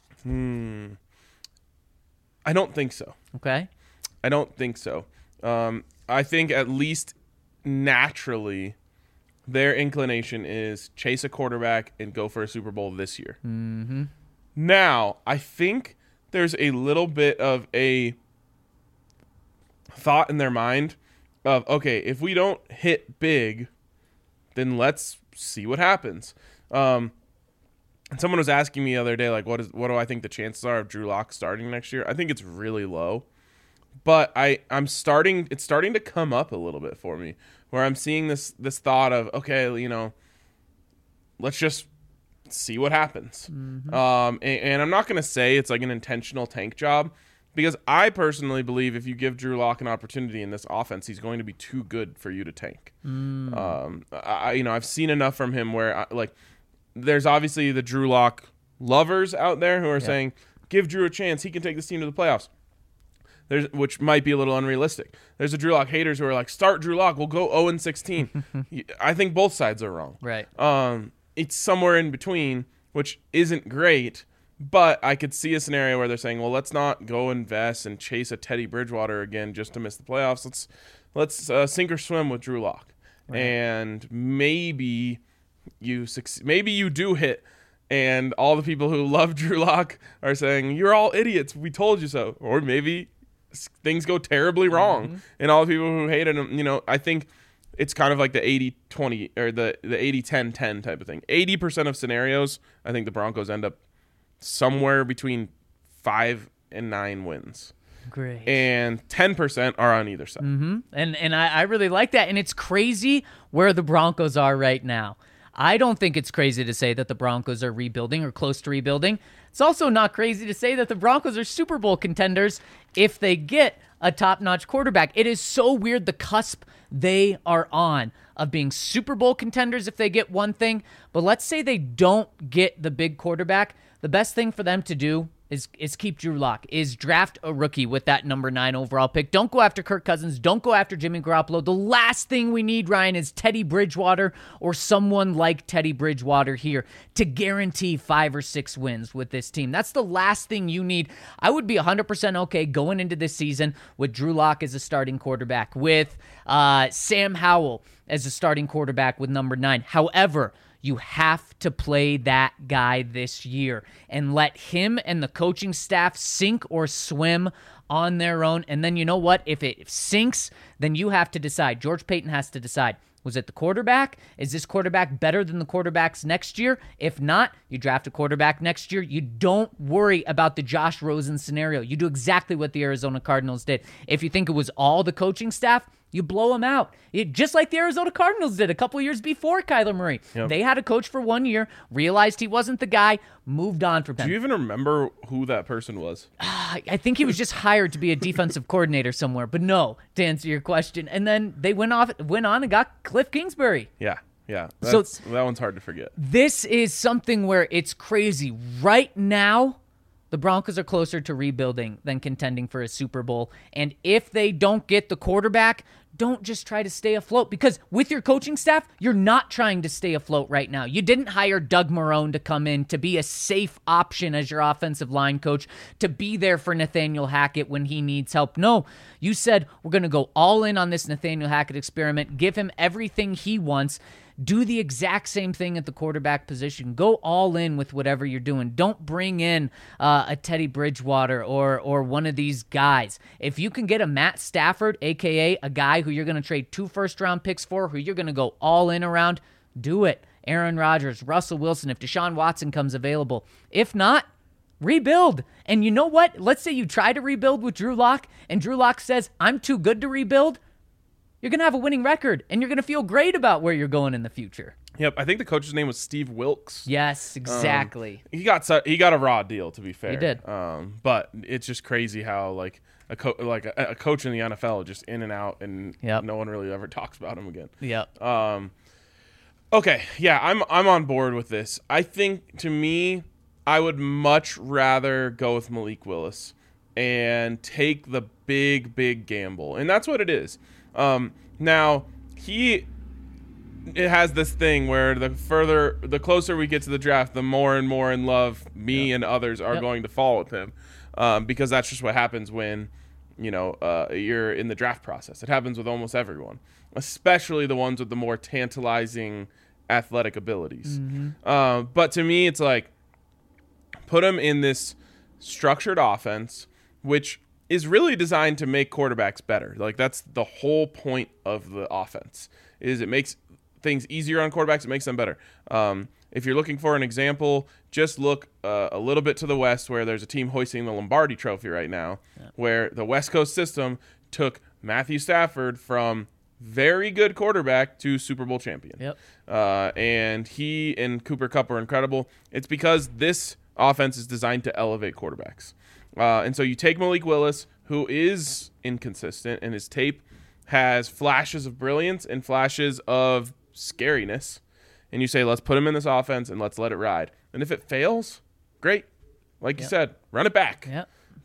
Speaker 2: I don't think so.
Speaker 3: Okay.
Speaker 2: I don't think so. Um, I think at least naturally, their inclination is chase a quarterback and go for a Super Bowl this year. Mm-hmm. Now, I think there's a little bit of a thought in their mind of, okay, if we don't hit big, then let's see what happens. Um, and someone was asking me the other day, like, what is what do I think the chances are of Drew Lock starting next year? I think it's really low. But I, I'm starting it's starting to come up a little bit for me, where I'm seeing this this thought of, okay, you know, let's just see what happens.
Speaker 3: Mm-hmm.
Speaker 2: Um, and, and I'm not going to say it's like an intentional tank job, because I personally believe if you give Drew Lock an opportunity in this offense, he's going to be too good for you to tank.
Speaker 3: Mm.
Speaker 2: Um, I, you know, I've seen enough from him where, I, like, there's obviously the Drew Lock lovers out there who are
Speaker 3: Yeah.
Speaker 2: saying, give Drew a chance. He can take this team to the playoffs. There's which might be a little unrealistic. There's a Drew Lock haters who are like, start Drew Lock, we'll go oh and sixteen. I think both sides are wrong.
Speaker 3: Right.
Speaker 2: Um, it's somewhere in between, which isn't great. But I could see a scenario where they're saying, well, let's not go invest and chase a Teddy Bridgewater again just to miss the playoffs. Let's let's uh, sink or swim with Drew Lock, right. And maybe you succeed, maybe you do hit, and all the people who love Drew Lock are saying you're all idiots. We told you so. Or maybe things go terribly wrong, mm-hmm. and all the people who hated him, you know, I think it's kind of like the eighty twenty or the the eighty ten ten type of thing. eighty percent of scenarios, I think the Broncos end up somewhere between five and nine wins.
Speaker 3: Great.
Speaker 2: And ten percent are on either side.
Speaker 3: Mm-hmm. And and I, I really like that. And it's crazy where the Broncos are right now. I don't think it's crazy to say that the Broncos are rebuilding or close to rebuilding. It's also not crazy to say that the Broncos are Super Bowl contenders if they get a top-notch quarterback. It is so weird the cusp they are on of being Super Bowl contenders if they get one thing. But let's say they don't get the big quarterback. The best thing for them to do is is keep Drew Lock, is draft a rookie with that number nine overall pick. Don't go after Kirk Cousins. Don't go after Jimmy Garoppolo. The last thing we need, Ryan, is Teddy Bridgewater or someone like Teddy Bridgewater here to guarantee five or six wins with this team. That's the last thing you need. I would be one hundred percent okay going into this season with Drew Lock as a starting quarterback, with uh, Sam Howell as a starting quarterback with number nine. However, you have to play that guy this year and let him and the coaching staff sink or swim on their own. And then you know what? If it sinks, then you have to decide. George Paton has to decide. Was it the quarterback? Is this quarterback better than the quarterbacks next year? If not, you draft a quarterback next year. You don't worry about the Josh Rosen scenario. You do exactly what the Arizona Cardinals did. If you think it was all the coaching staff, you blow them out. It, just like the Arizona Cardinals did a couple years before Kyler Murray. Yep. They had a coach for one year, realized he wasn't the guy, moved on from him.
Speaker 2: Do you even remember who that person was?
Speaker 3: I think he was just hired to be a defensive coordinator somewhere. But no, to answer your question. And then they went off, went on and got Cliff Kingsbury.
Speaker 2: Yeah, yeah. That's, so that one's hard to forget.
Speaker 3: This is something where it's crazy. Right now, the Broncos are closer to rebuilding than contending for a Super Bowl. And if they don't get the quarterback, don't just try to stay afloat, because with your coaching staff, you're not trying to stay afloat right now. You didn't hire Doug Marrone to come in to be a safe option as your offensive line coach, to be there for Nathaniel Hackett when he needs help. No, you said we're going to go all in on this Nathaniel Hackett experiment, give him everything he wants. Do the exact same thing at the quarterback position. Go all in with whatever you're doing. Don't bring in uh, a Teddy Bridgewater or or one of these guys. If you can get a Matt Stafford, a k a a guy who you're going to trade two first-round picks for, who you're going to go all in around, do it. Aaron Rodgers, Russell Wilson, if Deshaun Watson comes available. If not, rebuild. And you know what? Let's say you try to rebuild with Drew Lock, and Drew Lock says, I'm too good to rebuild. You're going to have a winning record, and you're going to feel great about where you're going in the future.
Speaker 2: Yep, I think the coach's name was Steve Wilks.
Speaker 3: Yes, exactly.
Speaker 2: Um, he got su- he got a raw deal, to be fair.
Speaker 3: He did.
Speaker 2: Um, but it's just crazy how like a co- like a, a coach in the N F L just in and out, and
Speaker 3: yep.
Speaker 2: no one really ever talks about him again.
Speaker 3: Yep.
Speaker 2: Um. Okay, yeah, I'm I'm on board with this. I think, to me, I would much rather go with Malik Willis and take the big, big gamble, and that's what it is. Um, now he it has this thing where the further, the closer we get to the draft, the more and more in love me yep. and others are yep. going to fall with him, um, because that's just what happens when, you know, uh, you're in the draft process. It happens with almost everyone, especially the ones with the more tantalizing athletic abilities. Mm-hmm. Uh, but to me, it's like, put him in this structured offense, which is really designed to make quarterbacks better. Like, that's the whole point of the offense, is it makes things easier on quarterbacks. It makes them better. Um, if you're looking for an example, just look uh, a little bit to the west, where there's a team hoisting the Lombardi Trophy right now, yeah. where the West Coast system took Matthew Stafford from very good quarterback to Super Bowl champion.
Speaker 3: Yep.
Speaker 2: Uh, and he and Cooper Kupp are incredible. It's because this offense is designed to elevate quarterbacks. Uh, and so you take Malik Willis, who is inconsistent, and his tape has flashes of brilliance and flashes of scariness, and you say, let's put him in this offense and let's let it ride. And if it fails, great. Like yep. you said, run it back.
Speaker 3: Yep.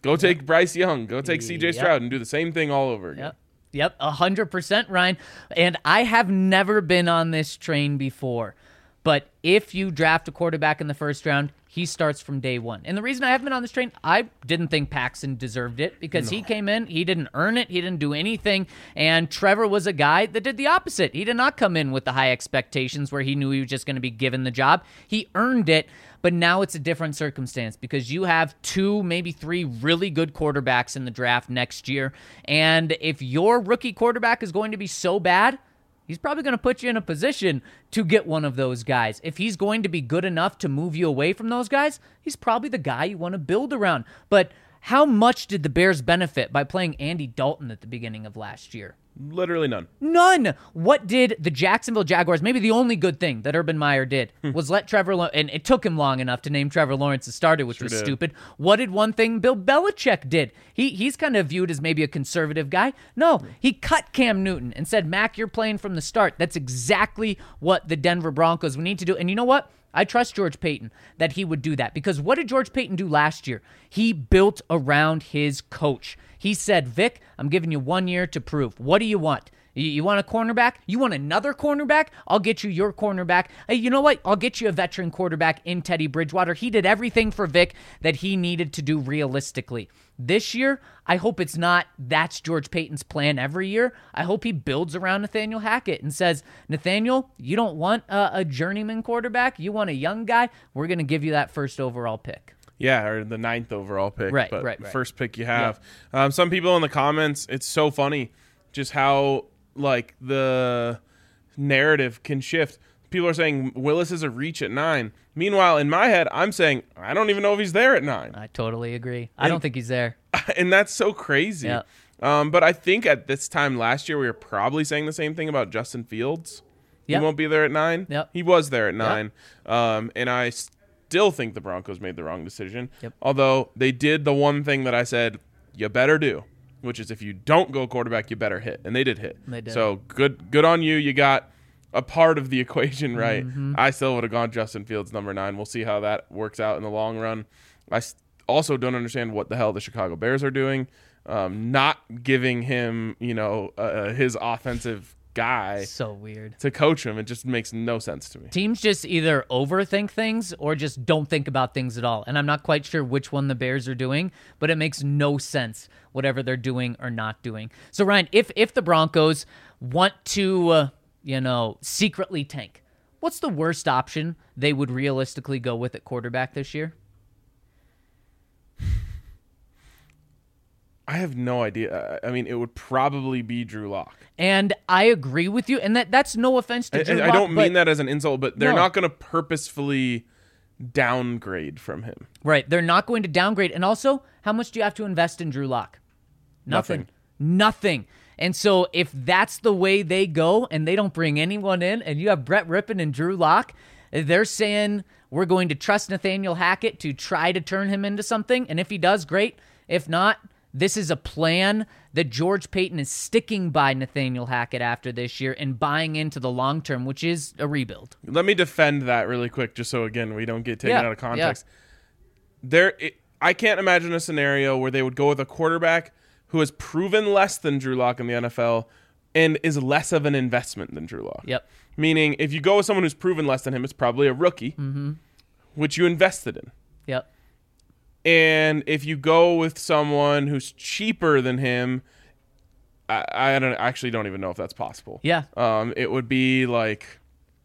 Speaker 2: Go take Bryce Young. Go take C J
Speaker 3: Yep.
Speaker 2: Stroud and do the same thing all over again.
Speaker 3: Yep. Yep, one hundred percent, Ryan. And I have never been on this train before. But if you draft a quarterback in the first round, he starts from day one. And the reason I haven't been on this train, I didn't think Paxton deserved it because no. he came in, he didn't earn it, he didn't do anything. And Trevor was a guy that did the opposite. He did not come in with the high expectations where he knew he was just going to be given the job. He earned it. But now it's a different circumstance because you have two, maybe three really good quarterbacks in the draft next year. And if your rookie quarterback is going to be so bad, he's probably going to put you in a position to get one of those guys. If he's going to be good enough to move you away from those guys, he's probably the guy you want to build around. But how much did the Bears benefit by playing Andy Dalton at the beginning of last year?
Speaker 2: Literally none.
Speaker 3: None. What did the Jacksonville Jaguars, maybe the only good thing that Urban Meyer did was let Trevor, La- and it took him long enough to name Trevor Lawrence as starter, which
Speaker 2: Sure
Speaker 3: was
Speaker 2: did.
Speaker 3: stupid. What did one thing Bill Belichick did? He He's kind of viewed as maybe a conservative guy. No, he cut Cam Newton and said, Mac, you're playing from the start. That's exactly what the Denver Broncos would need to do. And you know what? I trust George Payton that he would do that because what did George Payton do last year? He built around his coach. He said, Vic, I'm giving you one year to prove. What do you want? You, you want a cornerback? You want another cornerback? I'll get you your cornerback. Hey, you know what? I'll get you a veteran quarterback in Teddy Bridgewater. He did everything for Vic that he needed to do realistically. This year, I hope it's not that's George Payton's plan every year. I hope he builds around Nathaniel Hackett and says, Nathaniel, you don't want a, a journeyman quarterback. You want a young guy. We're going to give you that first overall pick.
Speaker 2: Yeah, or the ninth overall pick.
Speaker 3: Right,
Speaker 2: but
Speaker 3: right, right.
Speaker 2: First pick you have. Yeah. Um, some people in the comments, it's so funny just how, like, the narrative can shift. People are saying Willis is a reach at nine. Meanwhile, in my head, I'm saying, I don't even know if he's there at nine.
Speaker 3: I totally agree. I
Speaker 2: And-
Speaker 3: don't think he's there.
Speaker 2: And that's so crazy.
Speaker 3: Yeah.
Speaker 2: Um, but I think at this time last year, we were probably saying the same thing about Justin Fields.
Speaker 3: Yep.
Speaker 2: He won't be there at nine.
Speaker 3: Yep.
Speaker 2: He was there at nine. Um, and I still think the Broncos made the wrong decision.
Speaker 3: Yep.
Speaker 2: Although they did the one thing that I said, you better do, which is if you don't go quarterback, you better hit. And they did hit.
Speaker 3: They did.
Speaker 2: So good good on you. You got a part of the equation right.
Speaker 3: Mm-hmm.
Speaker 2: I still would have gone Justin Fields number nine. We'll see how that works out in the long run. I s- also don't understand what the hell the Chicago Bears are doing. Um, not giving him, you know, uh, his offensive guy
Speaker 3: So weird.
Speaker 2: to coach him. It just makes no sense to me.
Speaker 3: Teams just either overthink things or just don't think about things at all. And I'm not quite sure which one the Bears are doing, but it makes no sense whatever they're doing or not doing. So, Ryan, if if the Broncos want to, uh, you know, secretly tank, what's the worst option they would realistically go with at quarterback this year?
Speaker 2: I have no idea. I mean, it would probably be Drew Lock.
Speaker 3: And I agree with you. And that that's no offense to
Speaker 2: I,
Speaker 3: Drew
Speaker 2: I
Speaker 3: Lock,
Speaker 2: don't mean
Speaker 3: but-
Speaker 2: that as an insult, but they're
Speaker 3: No.
Speaker 2: not going to purposefully downgrade from him.
Speaker 3: Right. They're not going to downgrade. And also, how much do you have to invest in Drew Lock? Nothing.
Speaker 2: Nothing.
Speaker 3: Nothing. And so if that's the way they go and they don't bring anyone in and you have Brett Rippon and Drew Lock, they're saying we're going to trust Nathaniel Hackett to try to turn him into something. And if he does, great. If not, this is a plan that George Payton is sticking by Nathaniel Hackett after this year and buying into the long term, which is a rebuild.
Speaker 2: Let me defend that really quick, just so, again, we don't get taken
Speaker 3: Yeah,
Speaker 2: out of context. There, it, I can't imagine a scenario where they would go with a quarterback who has proven less than Drew Lock in the N F L and is less of an investment than Drew Lock.
Speaker 3: Yep.
Speaker 2: Meaning, if you go with someone who's proven less than him, it's probably a rookie, mm-hmm. which you invested in.
Speaker 3: Yep.
Speaker 2: And if you go with someone who's cheaper than him, I, I don't I actually don't even know if that's possible.
Speaker 3: Yeah.
Speaker 2: Um, it would be like,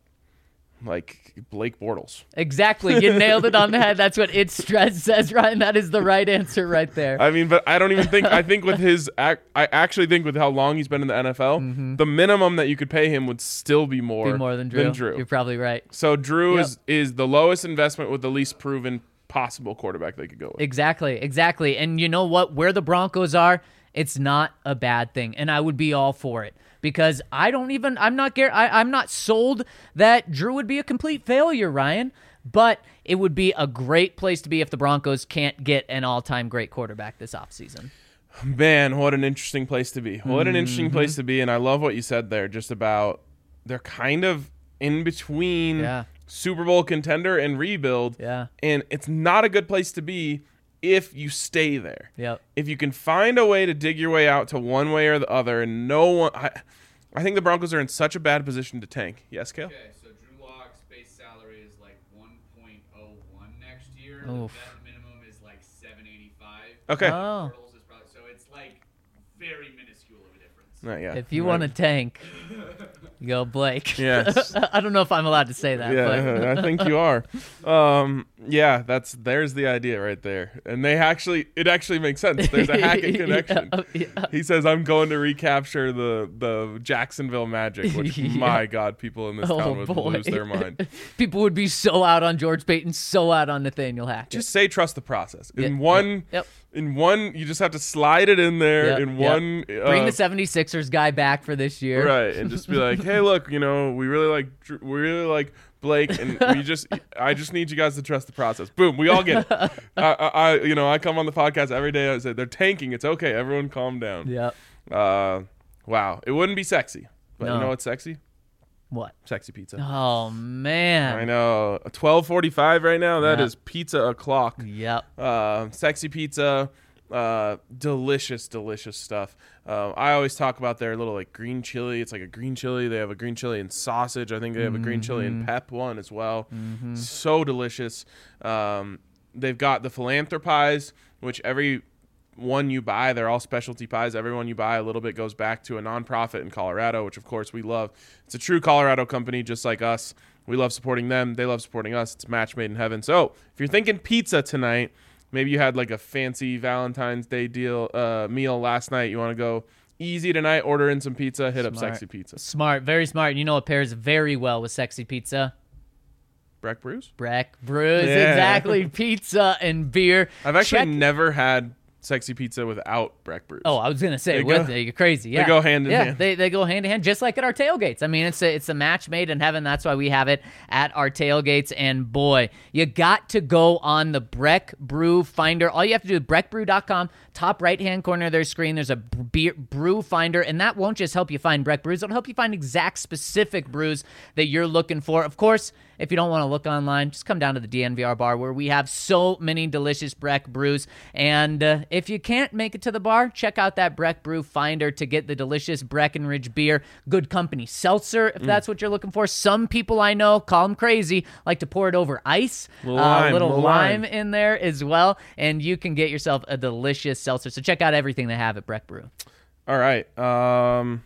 Speaker 2: like Blake Bortles.
Speaker 3: Exactly. You nailed it on the head. That's what It Stress says, Ryan. That is the right answer right there.
Speaker 2: I mean, but I don't even think I think with his ac- I actually think with how long he's been in the N F L, the minimum that you could pay him would still be more,
Speaker 3: Mm-hmm. Be more than Drew.
Speaker 2: Than Drew.
Speaker 3: You're probably right.
Speaker 2: So Drew
Speaker 3: Yep.
Speaker 2: is is the lowest investment with the least proven possible quarterback they could go with.
Speaker 3: Exactly, exactly. And you know what? Where the Broncos are, it's not a bad thing, and I would be all for it because I don't even. I'm not. gar- I, I'm not sold that Drew would be a complete failure, Ryan. But it would be a great place to be if the Broncos can't get an all-time great quarterback this offseason.
Speaker 2: Man, what an interesting place to be. What an interesting
Speaker 3: Mm-hmm.
Speaker 2: place to be. And I love what you said there just about they're kind of in between
Speaker 3: Yeah.
Speaker 2: Super Bowl contender and rebuild.
Speaker 3: Yeah.
Speaker 2: And it's not a good place to be if you stay there.
Speaker 3: Yep.
Speaker 2: If you can find a way to dig your way out to one way or the other, and no one, I, I think the Broncos are in such a bad position to tank. Yes, Kale?
Speaker 4: Okay, so Drew Lock's base salary is like one point oh one next year.
Speaker 3: Oof.
Speaker 4: The vet minimum is like seven eighty-five.
Speaker 2: Okay.
Speaker 3: Oh.
Speaker 4: Portals is probably, so it's like very minuscule of a difference.
Speaker 2: Right, yeah.
Speaker 3: If you
Speaker 2: Right.
Speaker 3: want to tank, go Blake.
Speaker 2: Yes.
Speaker 3: I don't know if I'm allowed to say that.
Speaker 2: Yeah, I think you are. Um, yeah, that's there's the idea right there, and they actually it actually makes sense. There's a Hackett connection.
Speaker 3: Yeah, yeah.
Speaker 2: He says, "I'm going to recapture the the Jacksonville Magic," which
Speaker 3: Yeah.
Speaker 2: my God, people in this
Speaker 3: Oh,
Speaker 2: town would
Speaker 3: boy.
Speaker 2: lose their mind.
Speaker 3: People would be so out on George Payton, so out on Nathaniel Hackett.
Speaker 2: Just say trust the process. In
Speaker 3: Yeah,
Speaker 2: one,
Speaker 3: yep.
Speaker 2: in one, you just have to slide it in there.
Speaker 3: Yep,
Speaker 2: in
Speaker 3: yep.
Speaker 2: one,
Speaker 3: Bring
Speaker 2: uh,
Speaker 3: the seventy-sixers guy back for this year.
Speaker 2: right, and just be like, "Hey, look, you know, we really like, Dr- we really like Blake, and we just, I just need you guys to trust the process." Boom, we all get it. I, I, I, you know, I come on the podcast every day. I say they're tanking. It's okay. Everyone, calm down.
Speaker 3: Yep.
Speaker 2: Uh, wow, it wouldn't be sexy, but
Speaker 3: No.
Speaker 2: you know what's sexy?
Speaker 3: What?
Speaker 2: Sexy pizza.
Speaker 3: Oh, man.
Speaker 2: I know. twelve forty-five right now. That
Speaker 3: Yeah.
Speaker 2: is pizza o'clock.
Speaker 3: Yep.
Speaker 2: Uh, sexy pizza, uh, delicious, delicious stuff. Uh, I always talk about their little like green chili. It's like a green chili. They have a green chili and sausage. I think they have a green chili and pep one as well. So delicious. Um, they've got the philanthropies, which every one you buy, they're all specialty pies. Every one you buy, a little bit goes back to a nonprofit in Colorado, which of course we love. It's a true Colorado company, just like us. We love supporting them. They love supporting us. It's a match made in heaven. So if you're thinking pizza tonight, maybe you had like a fancy Valentine's Day deal uh, meal last night. You want to go easy tonight, order in some pizza, hit up
Speaker 3: Smart.
Speaker 2: Sexy Pizza.
Speaker 3: Smart. Very smart. You know what pairs very well with sexy pizza?
Speaker 2: Breck Brews?
Speaker 3: Breck Brews.
Speaker 2: Yeah.
Speaker 3: Exactly. Pizza and beer.
Speaker 2: I've actually
Speaker 3: Check-
Speaker 2: never had Sexy Pizza without Breck Brews.
Speaker 3: Oh, I was gonna say
Speaker 2: They
Speaker 3: with
Speaker 2: go-
Speaker 3: it, you're crazy. Yeah,
Speaker 2: go hand in
Speaker 3: yeah,
Speaker 2: hand.
Speaker 3: they they go hand in hand, just like at our tailgates. I mean, it's a it's a match made in heaven. That's why we have it at our tailgates. And boy, you got to go on the Breck Brew Finder. All you have to do is breck brew dot com. Top right hand corner of their screen, there's a beer, brew finder, and that won't just help you find Breck brews. It'll help you find exact specific brews that you're looking for. Of course, if you don't want to look online, just come down to the D N V R bar where we have so many delicious Breck brews. And uh, if you can't make it to the bar, check out that Breck Brew Finder to get the delicious Breckenridge beer. Good company seltzer, if that's what you're looking for. Some people I know, call them crazy, like to pour it over ice.
Speaker 2: Little
Speaker 3: Uh,
Speaker 2: lime,
Speaker 3: little
Speaker 2: little
Speaker 3: lime
Speaker 2: lime.
Speaker 3: in there as well. And you can get yourself a delicious seltzer. So check out everything they have at Breck Brew.
Speaker 2: All right. Um,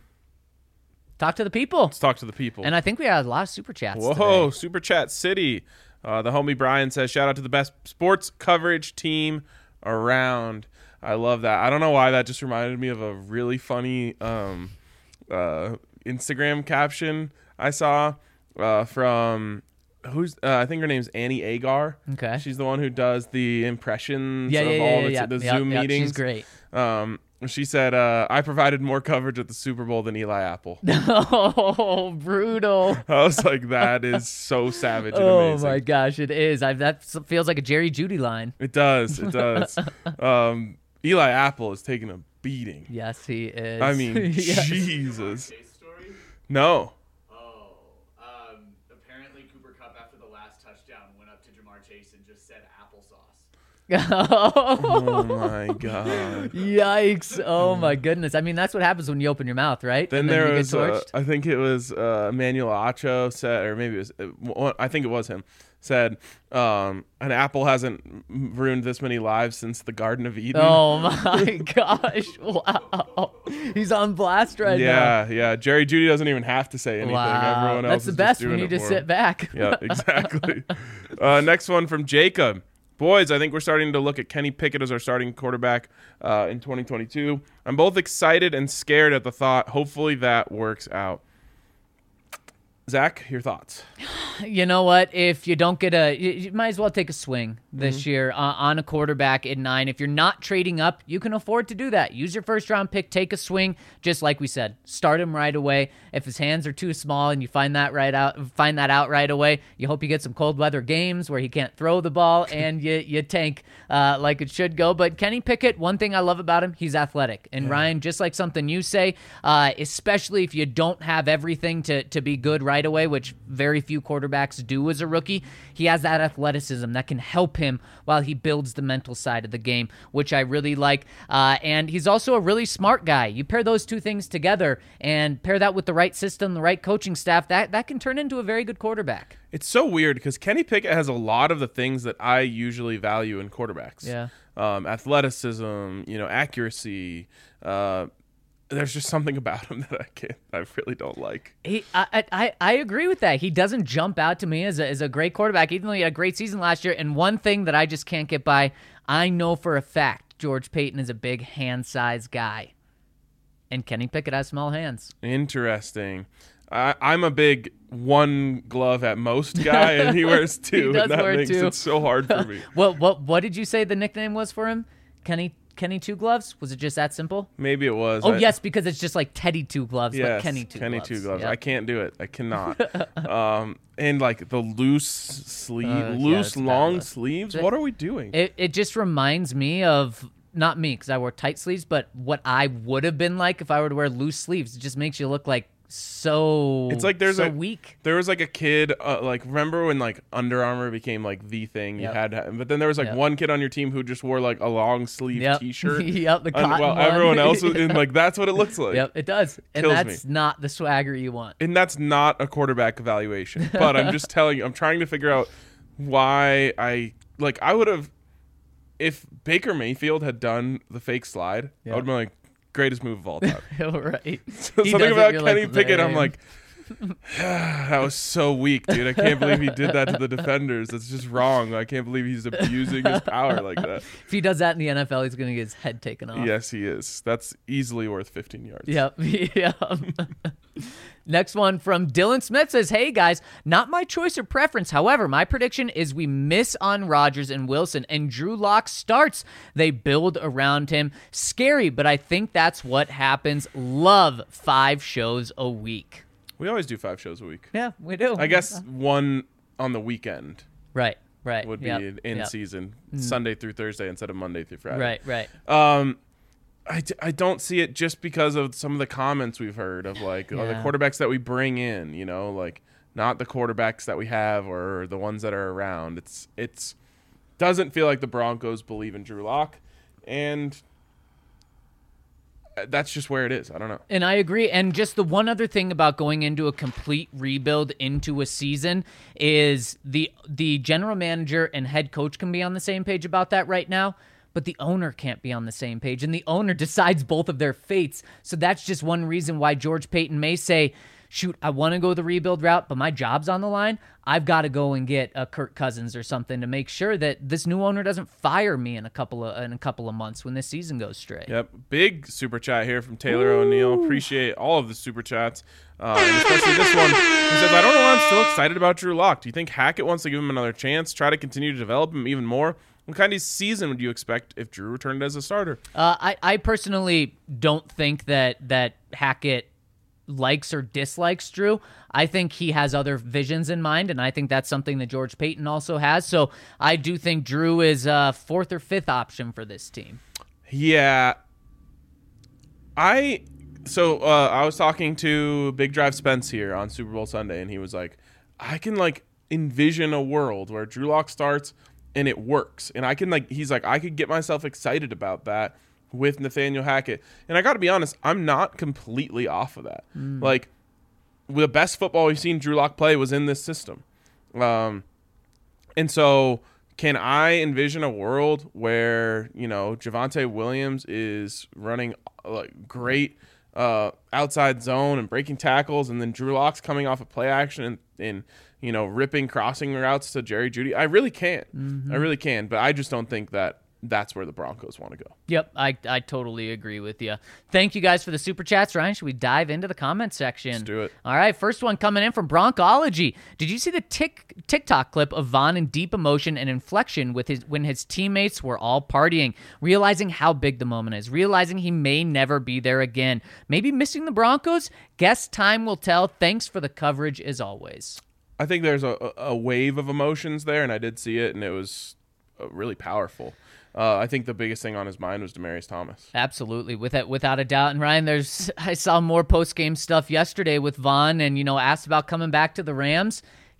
Speaker 3: Talk to the people.
Speaker 2: let's talk to the people.
Speaker 3: And I think we had a lot of super chats
Speaker 2: Whoa,
Speaker 3: today.
Speaker 2: Super Chat City. Uh, the homie Brian says, shout out to the best sports coverage team around. I love that. I don't know why that just reminded me of a really funny um, uh, Instagram caption I saw uh, from, who's uh, I think her name's Annie Agar.
Speaker 3: Okay.
Speaker 2: She's the one who does the impressions
Speaker 3: Yeah,
Speaker 2: of
Speaker 3: yeah, yeah,
Speaker 2: all
Speaker 3: yeah,
Speaker 2: the,
Speaker 3: yeah.
Speaker 2: the
Speaker 3: Yep,
Speaker 2: Zoom
Speaker 3: yep,
Speaker 2: meetings.
Speaker 3: She's great.
Speaker 2: Um, she said, uh, I provided more coverage at the Super Bowl than Eli Apple.
Speaker 3: Oh, brutal.
Speaker 2: I was like, that is so savage and
Speaker 3: Oh
Speaker 2: amazing.
Speaker 3: my gosh, it is. I that s- feels like a Jerry Judy line.
Speaker 2: It does. It does. um, Eli Apple is taking a beating.
Speaker 3: Yes, he is.
Speaker 2: I mean,
Speaker 3: Yes.
Speaker 2: Jesus.
Speaker 4: Chase story?
Speaker 2: No.
Speaker 4: Oh, um, apparently Cooper Kupp after the last touchdown went up to Jamar Chase and just said applesauce.
Speaker 2: Oh my God.
Speaker 3: Yikes! Oh my goodness! I mean, that's what happens when you open your mouth, right?
Speaker 2: Then
Speaker 3: And
Speaker 2: there
Speaker 3: you
Speaker 2: was,
Speaker 3: get
Speaker 2: uh,
Speaker 3: torched.
Speaker 2: I think it was uh, Emmanuel Acho said, or maybe it was, uh, one- I think it was him, said, um, an apple hasn't m- ruined this many lives since the Garden of Eden.
Speaker 3: Oh my gosh! Wow, he's on blast right now.
Speaker 2: yeah, yeah. Jerry Judy doesn't even have to say anything.
Speaker 3: Wow,
Speaker 2: Everyone else
Speaker 3: that's the
Speaker 2: is
Speaker 3: best
Speaker 2: just
Speaker 3: when
Speaker 2: doing
Speaker 3: you
Speaker 2: it
Speaker 3: just
Speaker 2: for
Speaker 3: sit
Speaker 2: him.
Speaker 3: back.
Speaker 2: Yeah, exactly. uh, next one from Jacob. Boys, I think we're starting to look at Kenny Pickett as our starting quarterback uh, in twenty twenty-two. I'm both excited and scared at the thought. Hopefully that works out. Zach, your thoughts?
Speaker 3: You know what? If you don't get a, you, you might as well take a swing this
Speaker 2: Mm-hmm.
Speaker 3: year uh, on a quarterback at nine. If you're not trading up, you can afford to do that. Use your first round pick, take a swing. Just like we said, start him right away. If his hands are too small and you find that right out, find that out right away. You hope you get some cold weather games where he can't throw the ball and you you tank uh, like it should go. But Kenny Pickett, one thing I love about him, he's athletic. And Ryan, just like something you say, uh, especially if you don't have everything to to be good right away, which very few quarterbacks quarterbacks do as a rookie. He has that athleticism that can help him while he builds the mental side of the game, which I really like. Uh, and he's also a really smart guy. You pair those two things together and pair that with the right system, the right coaching staff, that, that can turn into a very good quarterback.
Speaker 2: It's so weird because Kenny Pickett has a lot of the things that I usually value in quarterbacks.
Speaker 3: Yeah.
Speaker 2: Um, athleticism, you know, accuracy. Uh, there's just something about him that I can't, I really don't like.
Speaker 3: He, I, I, I agree with that. He doesn't jump out to me as a, as a great quarterback, even though he had a great season last year. And one thing that I just can't get by, I know for a fact George Payton is a big hand size guy. And Kenny Pickett has small hands.
Speaker 2: Interesting. I, I'm a big one glove at most guy, and he wears two.
Speaker 3: He does
Speaker 2: and that
Speaker 3: wear
Speaker 2: makes
Speaker 3: two.
Speaker 2: it so hard for me.
Speaker 3: What what what did you say the nickname was for him? Kenny Kenny Two Gloves? Was it just that simple?
Speaker 2: Maybe it was.
Speaker 3: Oh
Speaker 2: I,
Speaker 3: yes, because it's just like Teddy Two Gloves,
Speaker 2: yes,
Speaker 3: but Kenny Two
Speaker 2: Kenny
Speaker 3: Gloves.
Speaker 2: two gloves.
Speaker 3: Yep.
Speaker 2: I can't do it. I cannot. um, and like the loose sleeve,
Speaker 3: Uh, yeah,
Speaker 2: loose
Speaker 3: it's a bad
Speaker 2: long
Speaker 3: look.
Speaker 2: sleeves.
Speaker 3: It-
Speaker 2: What are we doing?
Speaker 3: It it just reminds me of not me because I wore tight sleeves, but what I would have been like if I were to wear loose sleeves. It just makes you look like so.
Speaker 2: It's like there's
Speaker 3: so
Speaker 2: a-
Speaker 3: weak.
Speaker 2: There was like a kid, uh, like remember when like Under Armour became like the thing you
Speaker 3: Yep.
Speaker 2: had, to, but then there was like
Speaker 3: Yep.
Speaker 2: one kid on your team who just wore like a long sleeve
Speaker 3: Yep.
Speaker 2: T-shirt.
Speaker 3: Yep, the
Speaker 2: And
Speaker 3: cotton
Speaker 2: while
Speaker 3: one.
Speaker 2: everyone else was in like that's what it looks like.
Speaker 3: Yep, it does, and
Speaker 2: Kills
Speaker 3: that's
Speaker 2: me.
Speaker 3: not the swagger you want.
Speaker 2: And that's not a quarterback evaluation. But I'm just telling you, I'm trying to figure out why I like I would have if Baker Mayfield had done the fake slide,
Speaker 3: Yeah.
Speaker 2: I would have been like greatest move of all time.
Speaker 3: Right. He
Speaker 2: Something
Speaker 3: does it,
Speaker 2: about
Speaker 3: you're
Speaker 2: Kenny
Speaker 3: like,
Speaker 2: Pickett, I'm
Speaker 3: "Lame."
Speaker 2: like, that was so weak, dude. I can't believe he did that to the defenders. That's just wrong. I can't believe he's abusing his power like that.
Speaker 3: If he does that in the N F L, he's going to get his head taken off.
Speaker 2: Yes, he is. That's easily worth fifteen yards.
Speaker 3: Yep. Yep. Next one from Dylan Smith says, "Hey guys, not my choice or preference. However, my prediction is we miss on Rodgers and Wilson and Drew Lock starts. They build around him. Scary, but I think that's what happens. Love five shows a week."
Speaker 2: We always do five shows a week.
Speaker 3: Yeah, we do.
Speaker 2: I guess one on the weekend
Speaker 3: Right. Right.
Speaker 2: would be
Speaker 3: Yep,
Speaker 2: in
Speaker 3: yep.
Speaker 2: season, Sunday through Thursday instead of Monday through Friday.
Speaker 3: Right. Right.
Speaker 2: Um, I, d- I don't see it just because of some of the comments we've heard of like oh, the
Speaker 3: Yeah.
Speaker 2: quarterbacks that we bring in, you know, like not the quarterbacks that we have or the ones that are around. It's it's doesn't feel like the Broncos believe in Drew Lock, and that's just where it is. I don't know.
Speaker 3: And I agree. And just the one other thing about going into a complete rebuild into a season is the the general manager and head coach can be on the same page about that right now, but the owner can't be on the same page. And the owner decides both of their fates. So that's just one reason why George Payton may say, shoot, I want to go the rebuild route, but my job's on the line. I've got to go and get a Kirk Cousins or something to make sure that this new owner doesn't fire me in a couple of in a couple of months when this season goes straight.
Speaker 2: Yep, big super chat here from Taylor O'Neill. Appreciate all of the super chats, uh, and especially this one. He says, "I don't know why I'm still excited about Drew Lock. Do you think Hackett wants to give him another chance, try to continue to develop him even more? What kind of season would you expect if Drew returned as a starter?"
Speaker 3: Uh, I, I personally don't think that that Hackett likes or dislikes Drew. I think he has other visions in mind, and I think that's something that George Payton also has. So I do think Drew is a fourth or fifth option for this team.
Speaker 2: Yeah, I so uh, I was talking to Big Drive Spence here on Super Bowl Sunday, and he was like, "I can like envision a world where Drew Lock starts and it works, and I can like." He's like, "I could get myself excited about that with Nathaniel Hackett," and I got to be honest, I'm not completely off of that.
Speaker 3: Mm.
Speaker 2: Like, the best football we've seen Drew Lock play was in this system, um, and so. Can I envision a world where, you know, Javonte Williams is running like great uh, outside zone and breaking tackles, and then Drew Lock's coming off of play action and, and you know, ripping crossing routes to Jerry Jeudy? I really can.
Speaker 3: Mm-hmm.
Speaker 2: I really can, but I just don't think that that's where the Broncos want to go.
Speaker 3: Yep, I, I totally agree with you. Thank you guys for the super chats. Ryan, should we dive into the comment section?
Speaker 2: Let's do it.
Speaker 3: All right, first one coming in from Broncology. Did you see the tick, TikTok clip of Von in deep emotion and inflection with his when his teammates were all partying, realizing how big the moment is, realizing he may never be there again, maybe missing the Broncos? Guess time will tell. Thanks for the coverage as always.
Speaker 2: I think there's a, a wave of emotions there, and I did see it, and it was uh, really powerful. Uh, I think the biggest thing on his mind was Demaryius Thomas.
Speaker 3: Absolutely, without without a doubt. And Ryan, there's I saw more post game stuff yesterday with Von, and you know asked about coming back to the Rams.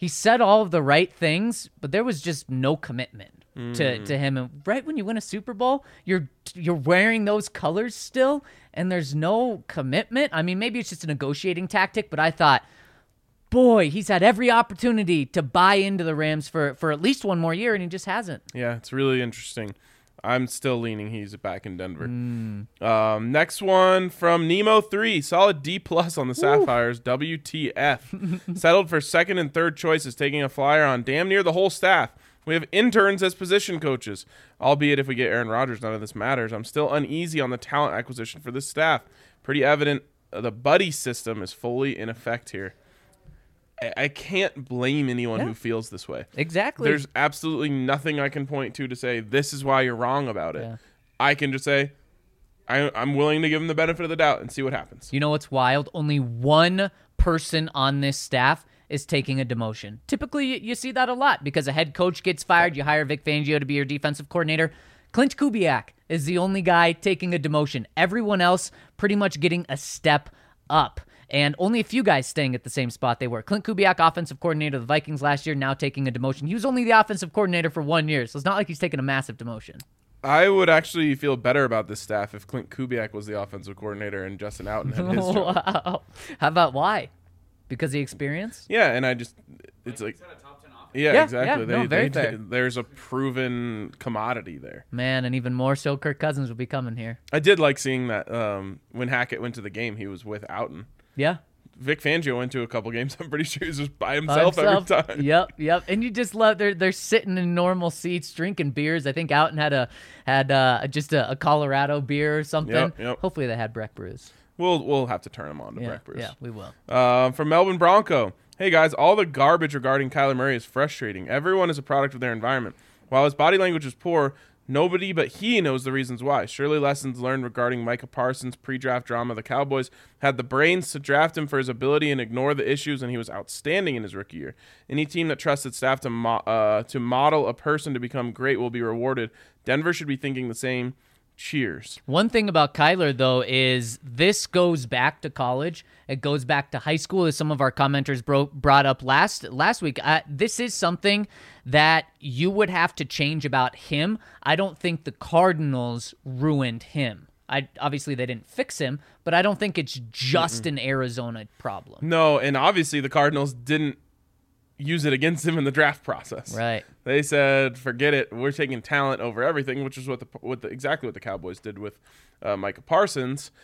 Speaker 3: he said all of the right things, but there was just no commitment mm. to, to him. And right when you win a Super Bowl, you're you're wearing those colors still, and there's no commitment. I mean, maybe it's just a negotiating tactic, but I thought, boy, he's had every opportunity to buy into the Rams for, for at least one more year, and he just hasn't.
Speaker 2: Yeah, it's really interesting. I'm still leaning he's back in Denver.
Speaker 3: Mm.
Speaker 2: Um, next one from Nemo three. Solid D plus on the Sapphires. Ooh. W T F. Settled for second and third choices, taking a flyer on damn near the whole staff. We have interns as position coaches. Albeit if we get Aaron Rodgers, none of this matters. I'm still uneasy on the talent acquisition for this staff. Pretty evident uh, the buddy system is fully in effect here. I can't blame anyone yeah. who feels this way.
Speaker 3: Exactly.
Speaker 2: There's absolutely nothing I can point to to say this is why you're wrong about it.
Speaker 3: Yeah.
Speaker 2: I can just say I, I'm willing to give him the benefit of the doubt and see what happens.
Speaker 3: You know what's wild? Only one person on this staff is taking a demotion. Typically, you see that a lot because a head coach gets fired. You hire Vic Fangio to be your defensive coordinator. Clint Kubiak is the only guy taking a demotion. Everyone else pretty much getting a step up. And only a few guys staying at the same spot they were. Clint Kubiak, offensive coordinator of the Vikings last year, now taking a demotion. He was only the offensive coordinator for one year, so it's not like he's taking a massive demotion.
Speaker 2: I would actually feel better about this staff if Clint Kubiak was the offensive coordinator and Justin Outen had his job.
Speaker 3: Wow. How about why? Because of the experience?
Speaker 2: Yeah, and I just, it's like, yeah,
Speaker 3: yeah
Speaker 2: exactly.
Speaker 3: Yeah,
Speaker 2: they,
Speaker 3: no, very
Speaker 2: they,
Speaker 3: fair.
Speaker 2: There's a proven commodity there.
Speaker 3: Man, and even more so, Kirk Cousins will be coming here.
Speaker 2: I did like seeing that um, when Hackett went to the game, he was with Outen.
Speaker 3: Yeah.
Speaker 2: Vic Fangio went to a couple games. I'm pretty sure he was just by himself,
Speaker 3: by himself.
Speaker 2: every time.
Speaker 3: Yep, yep. And you just love they're they're sitting in normal seats, drinking beers. I think Outen had a had uh, just a, a Colorado beer or something.
Speaker 2: Yep, yep.
Speaker 3: Hopefully they had Breck Brews.
Speaker 2: We'll we'll have to turn him on to
Speaker 3: yeah,
Speaker 2: Breck Brews.
Speaker 3: Yeah, we will.
Speaker 2: Uh, from Melbourne Bronco. Hey guys, all the garbage regarding Kyler Murray is frustrating. Everyone is a product of their environment. While his body language is poor, nobody but he knows the reasons why. Surely lessons learned regarding Micah Parsons' pre-draft drama. The Cowboys had the brains to draft him for his ability and ignore the issues, and he was outstanding in his rookie year. Any team that trusted staff to mo- uh, to model a person to become great will be rewarded. Denver should be thinking the same. Cheers.
Speaker 3: One thing about Kyler, though, is this goes back to college. It goes back to high school, as some of our commenters bro- brought up last last week. Uh, this is something that you would have to change about him. I don't think the Cardinals ruined him. I obviously they didn't fix him, but I don't think it's just Mm-mm. an Arizona problem.
Speaker 2: No, and obviously the Cardinals didn't use it against him in the draft process.
Speaker 3: Right.
Speaker 2: They said, "Forget it. We're taking talent over everything," which is what the what the exactly what the Cowboys did with uh, Micah Parsons,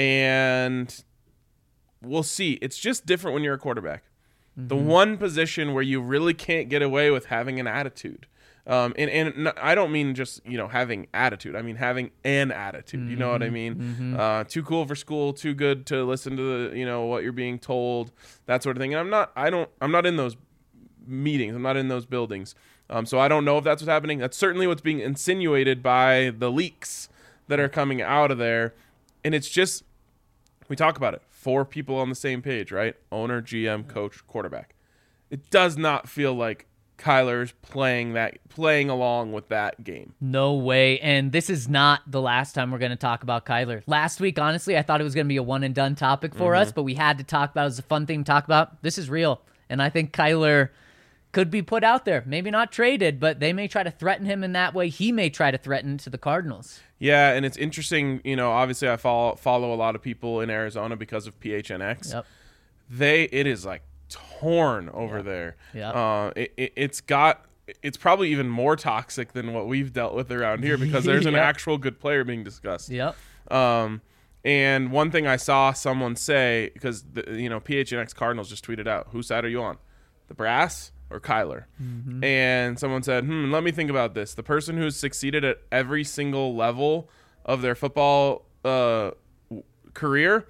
Speaker 2: and we'll see. It's just different when you're a quarterback. Mm-hmm. The one position where you really can't get away with having an attitude. Um, and, and I don't mean just, you know, having attitude. I mean having an attitude. Mm-hmm. You know what I mean? Mm-hmm. Uh, too cool for school, too good to listen to the, you know, what you're being told, that sort of thing. And I'm not, I don't, I'm not in those meetings. I'm not in those buildings. Um, so I don't know if that's what's happening. That's certainly what's being insinuated by the leaks that are coming out of there. And it's just, we talk about it. Four people on the same page, right? Owner, G M, coach, quarterback. It does not feel like Kyler's playing that, playing along with that game.
Speaker 3: No way. And this is not the last time we're going to talk about Kyler. Last week, honestly, I thought it was going to be a one and done topic for mm-hmm. us, but we had to talk about it. It was a fun thing to talk about. This is real. And I think Kyler could be put out there. Maybe not traded, but they may try to threaten him in that way. He may try to threaten to the Cardinals.
Speaker 2: Yeah, and it's interesting. You know, obviously I follow follow a lot of people in Arizona because of P H N X.
Speaker 3: Yep.
Speaker 2: They, it is like torn over
Speaker 3: yep.
Speaker 2: there.
Speaker 3: Yeah.
Speaker 2: Uh, it, it, it's got, it's probably even more toxic than what we've dealt with around here because there's an
Speaker 3: yep.
Speaker 2: actual good player being discussed.
Speaker 3: Yep.
Speaker 2: Um, and one thing I saw someone say, because, the, you know, P H N X Cardinals just tweeted out, whose side are you on? The brass or Kyler? Mm-hmm. And someone said, hmm, let me think about this. The person who's succeeded at every single level of their football uh, career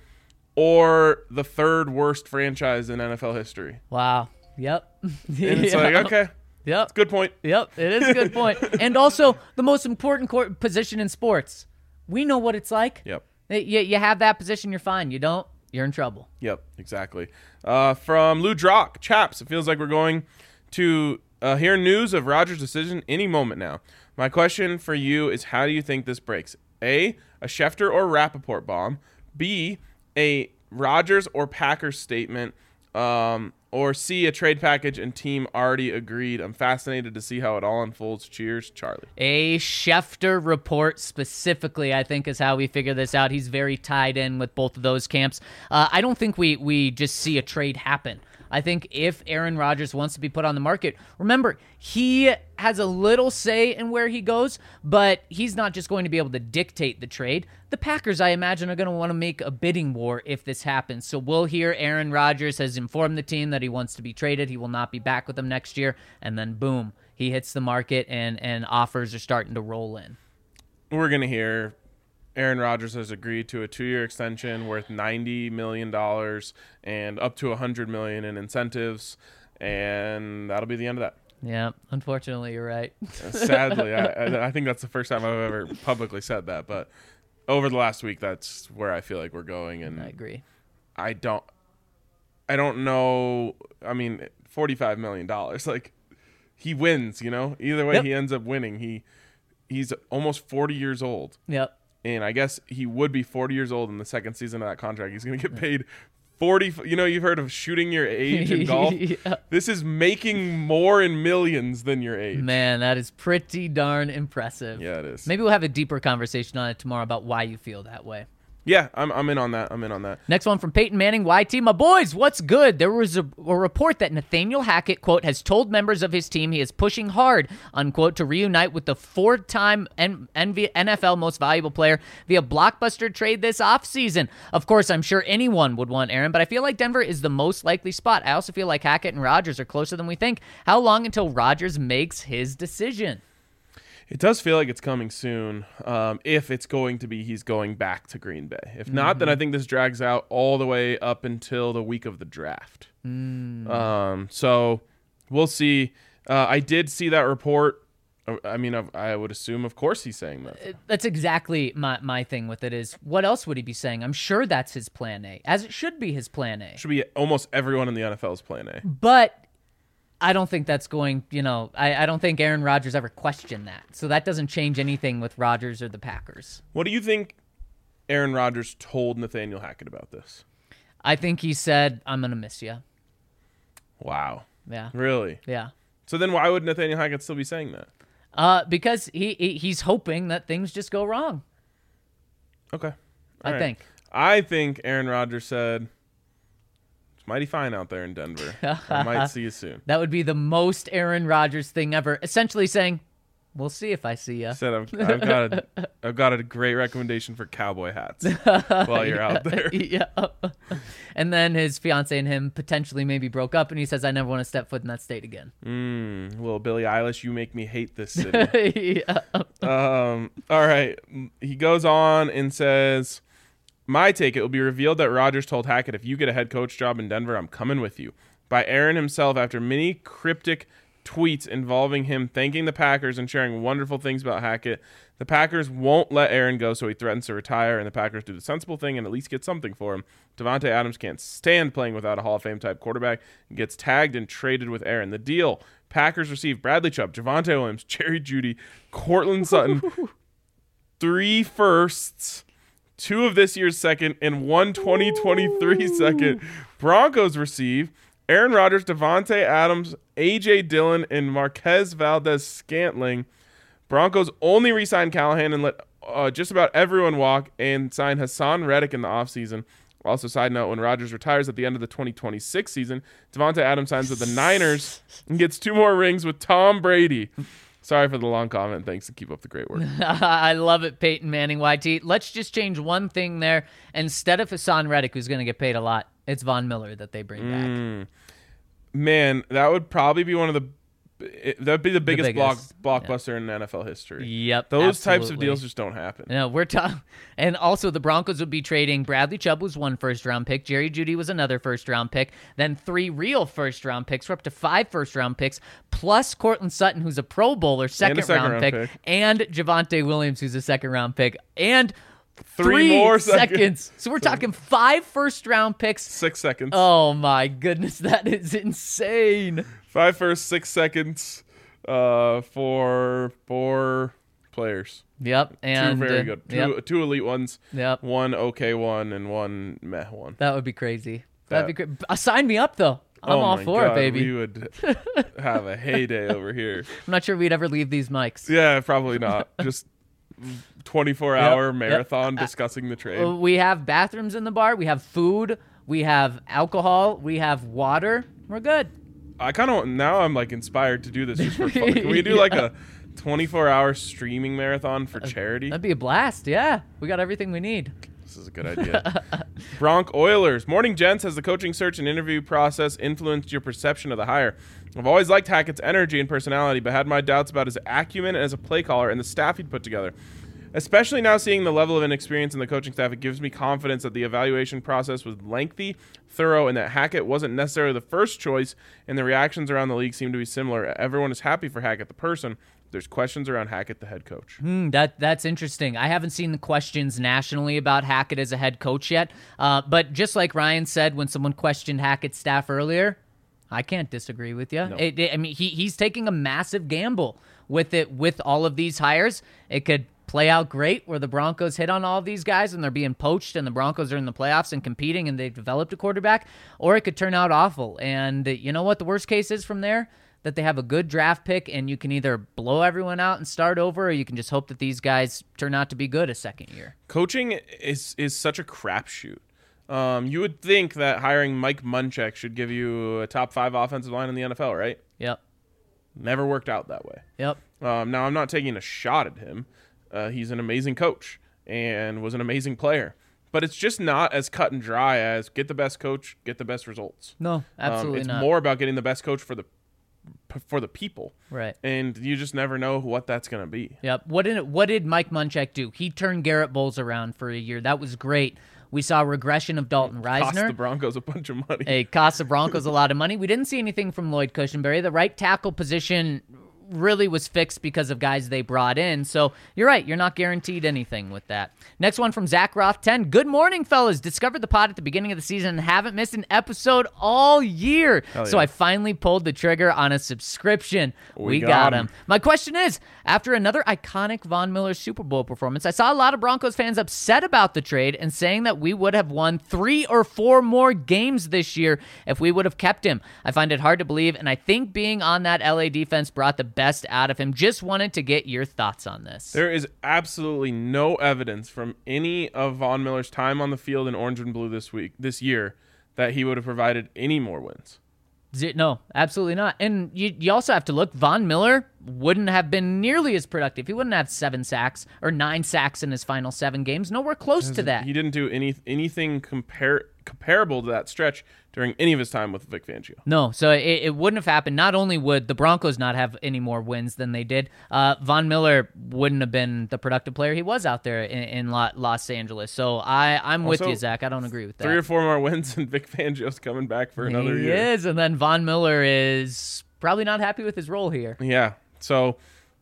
Speaker 2: or the third worst franchise in N F L history.
Speaker 3: Wow. Yep.
Speaker 2: And it's like, okay.
Speaker 3: Yep.
Speaker 2: It's a good point.
Speaker 3: Yep. It is a good point. And also the most important court position in sports. We know what it's like.
Speaker 2: Yep.
Speaker 3: You, you have that position, you're fine. You don't, you're in trouble.
Speaker 2: Yep, exactly. Uh, from Lou Drock, chaps, it feels like we're going to uh, hear news of Rodgers' decision any moment now. My question for you is, how do you think this breaks? A, a Schefter or Rappaport bomb. B, a Rodgers or Packers statement um, or C, a trade package and team already agreed. I'm fascinated to see how it all unfolds. Cheers, Charlie.
Speaker 3: A Schefter report specifically, I think, is how we figure this out. He's very tied in with both of those camps. Uh, I don't think we we just see a trade happen. I think if Aaron Rodgers wants to be put on the market, remember, he has a little say in where he goes, but he's not just going to be able to dictate the trade. The Packers, I imagine, are going to want to make a bidding war if this happens. So we'll hear Aaron Rodgers has informed the team that he wants to be traded. He will not be back with them next year. And then, boom, he hits the market and, and offers are starting to roll in.
Speaker 2: We're going to hear Aaron Rodgers has agreed to a two-year extension worth ninety million dollars and up to one hundred million dollars in incentives, and that'll be the end of that.
Speaker 3: Yeah, unfortunately, you're right.
Speaker 2: Sadly, I, I think that's the first time I've ever publicly said that, but over the last week, that's where I feel like we're going, and
Speaker 3: I agree.
Speaker 2: I don't, I don't know. I mean, forty-five million dollars, like he wins, you know. Either way,
Speaker 3: Yep.
Speaker 2: he ends up winning. He, he's almost forty years old.
Speaker 3: Yep.
Speaker 2: And I guess he would be forty years old in the second season of that contract. He's going to get paid forty. You know, you've heard of shooting your age in golf.
Speaker 3: Yeah.
Speaker 2: This is making more in millions than your age.
Speaker 3: Man, that is pretty darn impressive.
Speaker 2: Yeah, it is.
Speaker 3: Maybe we'll have a deeper conversation on it tomorrow about why you feel that way.
Speaker 2: Yeah, I'm I'm in on that. I'm in on that.
Speaker 3: Next one from Peyton Manning, Y T. My boys, what's good? There was a, a report that Nathaniel Hackett, quote, has told members of his team he is pushing hard, unquote, to reunite with the four-time N- N F L most valuable player via blockbuster trade this offseason. Of course, I'm sure anyone would want Aaron, but I feel like Denver is the most likely spot. I also feel like Hackett and Rodgers are closer than we think. How long until Rodgers makes his decision?
Speaker 2: It does feel like it's coming soon. Um, if it's going to be, he's going back to Green Bay. If not,
Speaker 3: Mm-hmm.
Speaker 2: then I think this drags out all the way up until the week of the draft.
Speaker 3: Mm.
Speaker 2: Um, so we'll see. Uh, I did see that report. I mean, I, I would assume, of course, he's saying that.
Speaker 3: That's exactly my, my thing with it is, what else would he be saying? I'm sure that's his plan A, as it should be his plan A.
Speaker 2: Should be almost everyone in the N F L's plan A.
Speaker 3: But I don't think that's going, you know, I, I don't think Aaron Rodgers ever questioned that. So that doesn't change anything with Rodgers or the Packers.
Speaker 2: What do you think Aaron Rodgers told Nathaniel Hackett about this?
Speaker 3: I think he said, I'm going to miss you.
Speaker 2: Wow.
Speaker 3: Yeah.
Speaker 2: Really?
Speaker 3: Yeah.
Speaker 2: So then why would Nathaniel Hackett still be saying that?
Speaker 3: Uh, because he, he he's hoping that things just go wrong.
Speaker 2: Okay. All
Speaker 3: I
Speaker 2: right.
Speaker 3: think.
Speaker 2: I think Aaron Rodgers said, it's mighty fine out there in Denver. I might see you soon.
Speaker 3: That would be the most Aaron Rodgers thing ever. Essentially saying, we'll see if I see you.
Speaker 2: He said, I've, I've got a, I've got a great recommendation for cowboy hats while you're out there.
Speaker 3: Yeah. And then his fiance and him potentially maybe broke up, and he says, I never want to step foot in that state again.
Speaker 2: Mm, little Billie Eilish, you make me hate this city.
Speaker 3: Yeah.
Speaker 2: Um, all right. He goes on and says, my take, it will be revealed that Rodgers told Hackett, if you get a head coach job in Denver, I'm coming with you. By Aaron himself after many cryptic tweets involving him thanking the Packers and sharing wonderful things about Hackett. The Packers won't let Aaron go, so he threatens to retire, and the Packers do the sensible thing and at least get something for him. Davante Adams can't stand playing without a Hall of Fame type quarterback and gets tagged and traded with Aaron. The deal, Packers receive Bradley Chubb, Javonte Williams, Jerry Jeudy, Cortland Sutton, three firsts, two of this year's second, and one twenty twenty-three second. Broncos receive Aaron Rodgers, Davante Adams, A J Dillon, and Marquez Valdez-Scantling. Broncos only re-signed Callahan and let uh, just about everyone walk and sign Hassan Reddick in the offseason. Also, side note, when Rodgers retires at the end of the twenty twenty-six season, Davante Adams signs with the Niners and gets two more rings with Tom Brady. Sorry for the long comment. Thanks, and keep up the great work.
Speaker 3: I love it, Peyton Manning, Y T. Let's just change one thing there. Instead of Hassan Reddick, who's going to get paid a lot, it's Von Miller that they bring back.
Speaker 2: Mm. Man, that would probably be one of the it, that'd be the biggest,
Speaker 3: biggest,
Speaker 2: block blockbuster in N F L history.
Speaker 3: Yep,
Speaker 2: Those types of
Speaker 3: absolutely.
Speaker 2: deals just don't happen.
Speaker 3: No, we're talking, and also the Broncos would be trading. Bradley Chubb was one first round pick. Jerry Jeudy was another first round pick. Then three real first round picks. We're up to five first round picks, plus Cortland Sutton, who's a Pro Bowler, second,
Speaker 2: second
Speaker 3: round,
Speaker 2: round
Speaker 3: pick,
Speaker 2: pick.
Speaker 3: and Javonte Williams, who's a second round pick, and
Speaker 2: Three
Speaker 3: three
Speaker 2: more
Speaker 3: seconds.
Speaker 2: seconds.
Speaker 3: So we're talking five first round picks.
Speaker 2: Six seconds.
Speaker 3: Oh my goodness, that is insane.
Speaker 2: Five first, six seconds uh, for four players.
Speaker 3: Yep, and
Speaker 2: two very
Speaker 3: uh,
Speaker 2: good. Two,
Speaker 3: Yep,
Speaker 2: two elite ones.
Speaker 3: yep.
Speaker 2: One okay one and one meh one.
Speaker 3: That would be crazy. That'd
Speaker 2: That-
Speaker 3: be great. Uh, sign me up though. I'm
Speaker 2: oh
Speaker 3: all
Speaker 2: my
Speaker 3: for
Speaker 2: God,
Speaker 3: it, baby.
Speaker 2: We would have a heyday over here.
Speaker 3: I'm not sure we'd ever leave these mics.
Speaker 2: Yeah, probably not. Just twenty-four hour
Speaker 3: Yep,
Speaker 2: marathon
Speaker 3: yep.
Speaker 2: discussing the trade.
Speaker 3: Uh, We have bathrooms in the bar. We have food. We have alcohol. We have water. We're good.
Speaker 2: I kind of now I'm like inspired to do this just for fun. Can we do like a twenty-four hour streaming marathon for charity?
Speaker 3: That'd be a blast. Yeah, we got everything we need.
Speaker 2: This is a good idea. Bronc Oilers. Morning, gents. Has the coaching search and interview process influenced your perception of the hire? I've always liked Hackett's energy and personality, but had my doubts about his acumen as a play caller and the staff he'd put together. Especially now seeing the level of inexperience in the coaching staff, it gives me confidence that the evaluation process was lengthy, thorough, and that Hackett wasn't necessarily the first choice, and the reactions around the league seem to be similar. Everyone is happy for Hackett, the person. There's questions around Hackett, the head coach.
Speaker 3: Hmm, that that's interesting. I haven't seen the questions nationally about Hackett as a head coach yet. Uh, but just like Ryan said when someone questioned Hackett's staff earlier, I can't disagree with you.
Speaker 2: No.
Speaker 3: It, it, I mean, he he's taking a massive gamble with it with all of these hires. It could play out great where the Broncos hit on all of these guys and they're being poached and the Broncos are in the playoffs and competing and they've developed a quarterback, or it could turn out awful. And uh, you know what the worst case is from there? That they have a good draft pick and you can either blow everyone out and start over, or you can just hope that these guys turn out to be good a second year.
Speaker 2: Coaching is is such a crapshoot. Um, you would think that hiring Mike Munchak should give you a top five offensive line in the N F L, right?
Speaker 3: Yep.
Speaker 2: Never worked out that way.
Speaker 3: Yep.
Speaker 2: Um, now, I'm not taking a shot at him. Uh, he's an amazing coach and was an amazing player. But it's just not as cut and dry as get the best coach, get the best results.
Speaker 3: No, absolutely
Speaker 2: um, it's
Speaker 3: not.
Speaker 2: more about getting the best coach for the for the people.
Speaker 3: Right.
Speaker 2: And you just never know what that's going to be.
Speaker 3: Yep. What did what did Mike Munchak do? He turned Garrett Bowles around for a year. That was great. We saw a regression of Dalton
Speaker 2: Cost
Speaker 3: Reisner.
Speaker 2: the Broncos a bunch of money.
Speaker 3: It cost the Broncos a lot of money. We didn't see anything from Lloyd Cushenberry. The right tackle position really was fixed because of guys they brought in. So you're right. You're not guaranteed anything with that. Next one from Zach Roth ten. Good morning, fellas. Discovered the pod at the beginning of the season and haven't missed an episode all year.
Speaker 2: Hell
Speaker 3: So
Speaker 2: yeah.
Speaker 3: I finally pulled the trigger on a subscription. We,
Speaker 2: We
Speaker 3: got,
Speaker 2: got
Speaker 3: him.
Speaker 2: him.
Speaker 3: My question is, after another iconic Von Miller Super Bowl performance, I saw a lot of Broncos fans upset about the trade and saying that we would have won three or four more games this year if we would have kept him. I find it hard to believe, and I think being on that L A defense brought the best out of him. Just wanted to get your thoughts on this.
Speaker 2: There is absolutely no evidence from any of Von Miller's time on the field in orange and blue this week, this year, that he would have provided any more wins.
Speaker 3: Z- No, absolutely not. And you, you also have to look, Von Miller wouldn't have been nearly as productive. He wouldn't have seven sacks or nine sacks in his final seven games. Nowhere close to that.
Speaker 2: He didn't do any anything compar- comparable to that stretch during any of his time with Vic Fangio.
Speaker 3: No, so it, it wouldn't have happened. Not only would the Broncos not have any more wins than they did, uh, Von Miller wouldn't have been the productive player he was out there in, in Lo- Los Angeles. So I, I'm with
Speaker 2: Also,
Speaker 3: you, Zach. I don't agree with that.
Speaker 2: Three or four more wins, and Vic Fangio's coming back for another
Speaker 3: he
Speaker 2: year.
Speaker 3: is, and then Von Miller is probably not happy with his role here.
Speaker 2: Yeah. So,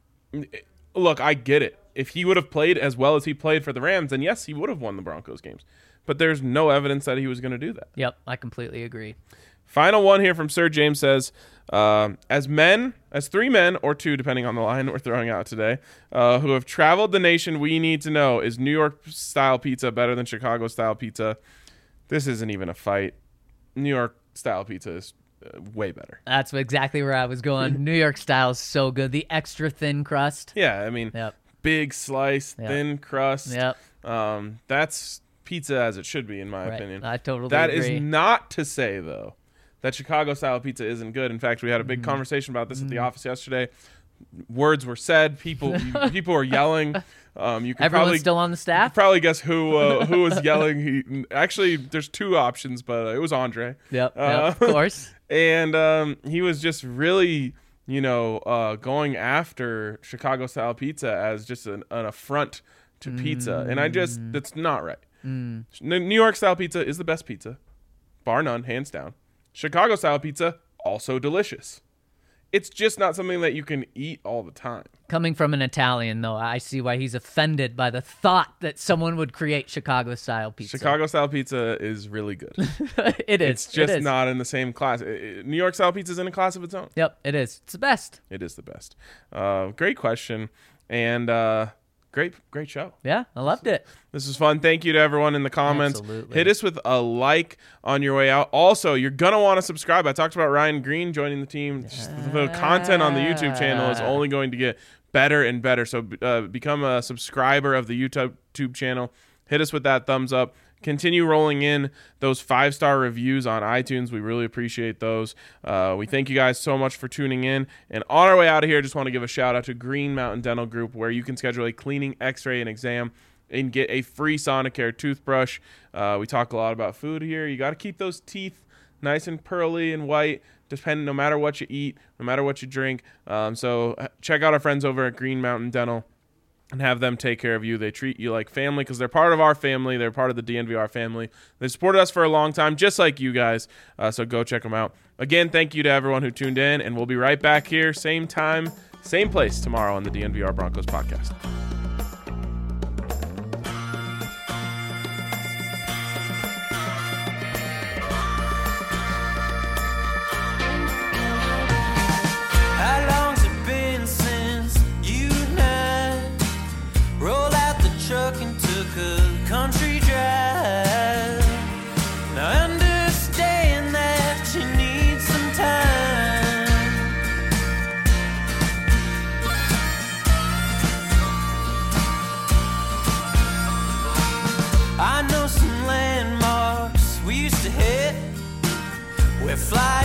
Speaker 2: look, I get it. If he would have played as well as he played for the Rams, then yes, he would have won the Broncos games. But there's no evidence that he was going to do that.
Speaker 3: Yep, I completely agree.
Speaker 2: Final one here from Sir James says, um, as men, as three men, or two, depending on the line we're throwing out today, uh, who have traveled the nation, we need to know, is New York-style pizza better than Chicago-style pizza? This isn't even a fight. New York-style pizza is uh, way better.
Speaker 3: That's exactly where I was going. New York style is so good. The extra thin crust.
Speaker 2: Yeah, I mean,
Speaker 3: Yep.
Speaker 2: big slice,
Speaker 3: Yep.
Speaker 2: thin crust.
Speaker 3: Yep.
Speaker 2: Um, that's pizza as it should be, in my
Speaker 3: Right.
Speaker 2: opinion.
Speaker 3: I totally
Speaker 2: That is
Speaker 3: agree.
Speaker 2: not to say, though, that Chicago-style pizza isn't good. In fact, we had a big
Speaker 3: Mm.
Speaker 2: conversation about this at the office yesterday. Words were said. People people were yelling. Um, you can
Speaker 3: Everyone's
Speaker 2: probably
Speaker 3: still on the
Speaker 2: you
Speaker 3: staff?
Speaker 2: could probably guess who uh, who was yelling. He actually, there's two options, but it was Andre.
Speaker 3: Yep,
Speaker 2: Uh,
Speaker 3: yep, of course.
Speaker 2: And um, he was just really, you know, uh, going after Chicago-style pizza as just an, an affront to pizza. And I just, that's not right. N- New York-style pizza is the best pizza, bar none, hands down. Chicago-style pizza, also delicious. It's just not something that you can eat all the time.
Speaker 3: Coming from an Italian, though, I see why he's offended by the thought that someone would create Chicago-style pizza.
Speaker 2: Chicago-style pizza is really good.
Speaker 3: it is.
Speaker 2: It's just
Speaker 3: it is.
Speaker 2: not in the same class. I- I- New York-style pizza is in a class of its own.
Speaker 3: Yep, it is. It's the best.
Speaker 2: It is the best. Uh, great question. And uh, great, great show.
Speaker 3: Yeah, I loved it.
Speaker 2: This is fun. Thank you to everyone in the comments.
Speaker 3: Absolutely.
Speaker 2: Hit us with a like on your way out. Also, you're going to want to subscribe. I talked about Ryan Green joining the team. Just the content on the YouTube channel is only going to get better and better. So uh, become a subscriber of the YouTube channel. Hit us with that thumbs up. Continue rolling in those five-star reviews on iTunes. We really appreciate those. Uh, we thank you guys so much for tuning in. And on our way out of here, just want to give a shout-out to Green Mountain Dental Group, where you can schedule a cleaning, x-ray, and exam and get a free Sonicare toothbrush. Uh, we talk a lot about food here. You got to keep those teeth nice and pearly and white, depending, no matter what you eat, no matter what you drink. Um, so check out our friends over at Green Mountain Dental and have them take care of you. They treat you like family because they're part of our family. They're part of the D N V R family. They've supported us for a long time, just like you guys. Uh, so go check them out. Again, thank you to everyone who tuned in, and we'll be right back here, same time, same place tomorrow on the D N V R Broncos podcast.
Speaker 1: How long's it been since you and I rolled out the truck and took a country drive? Now I understand that you need some time. I know some landmarks we used to hit. We're flying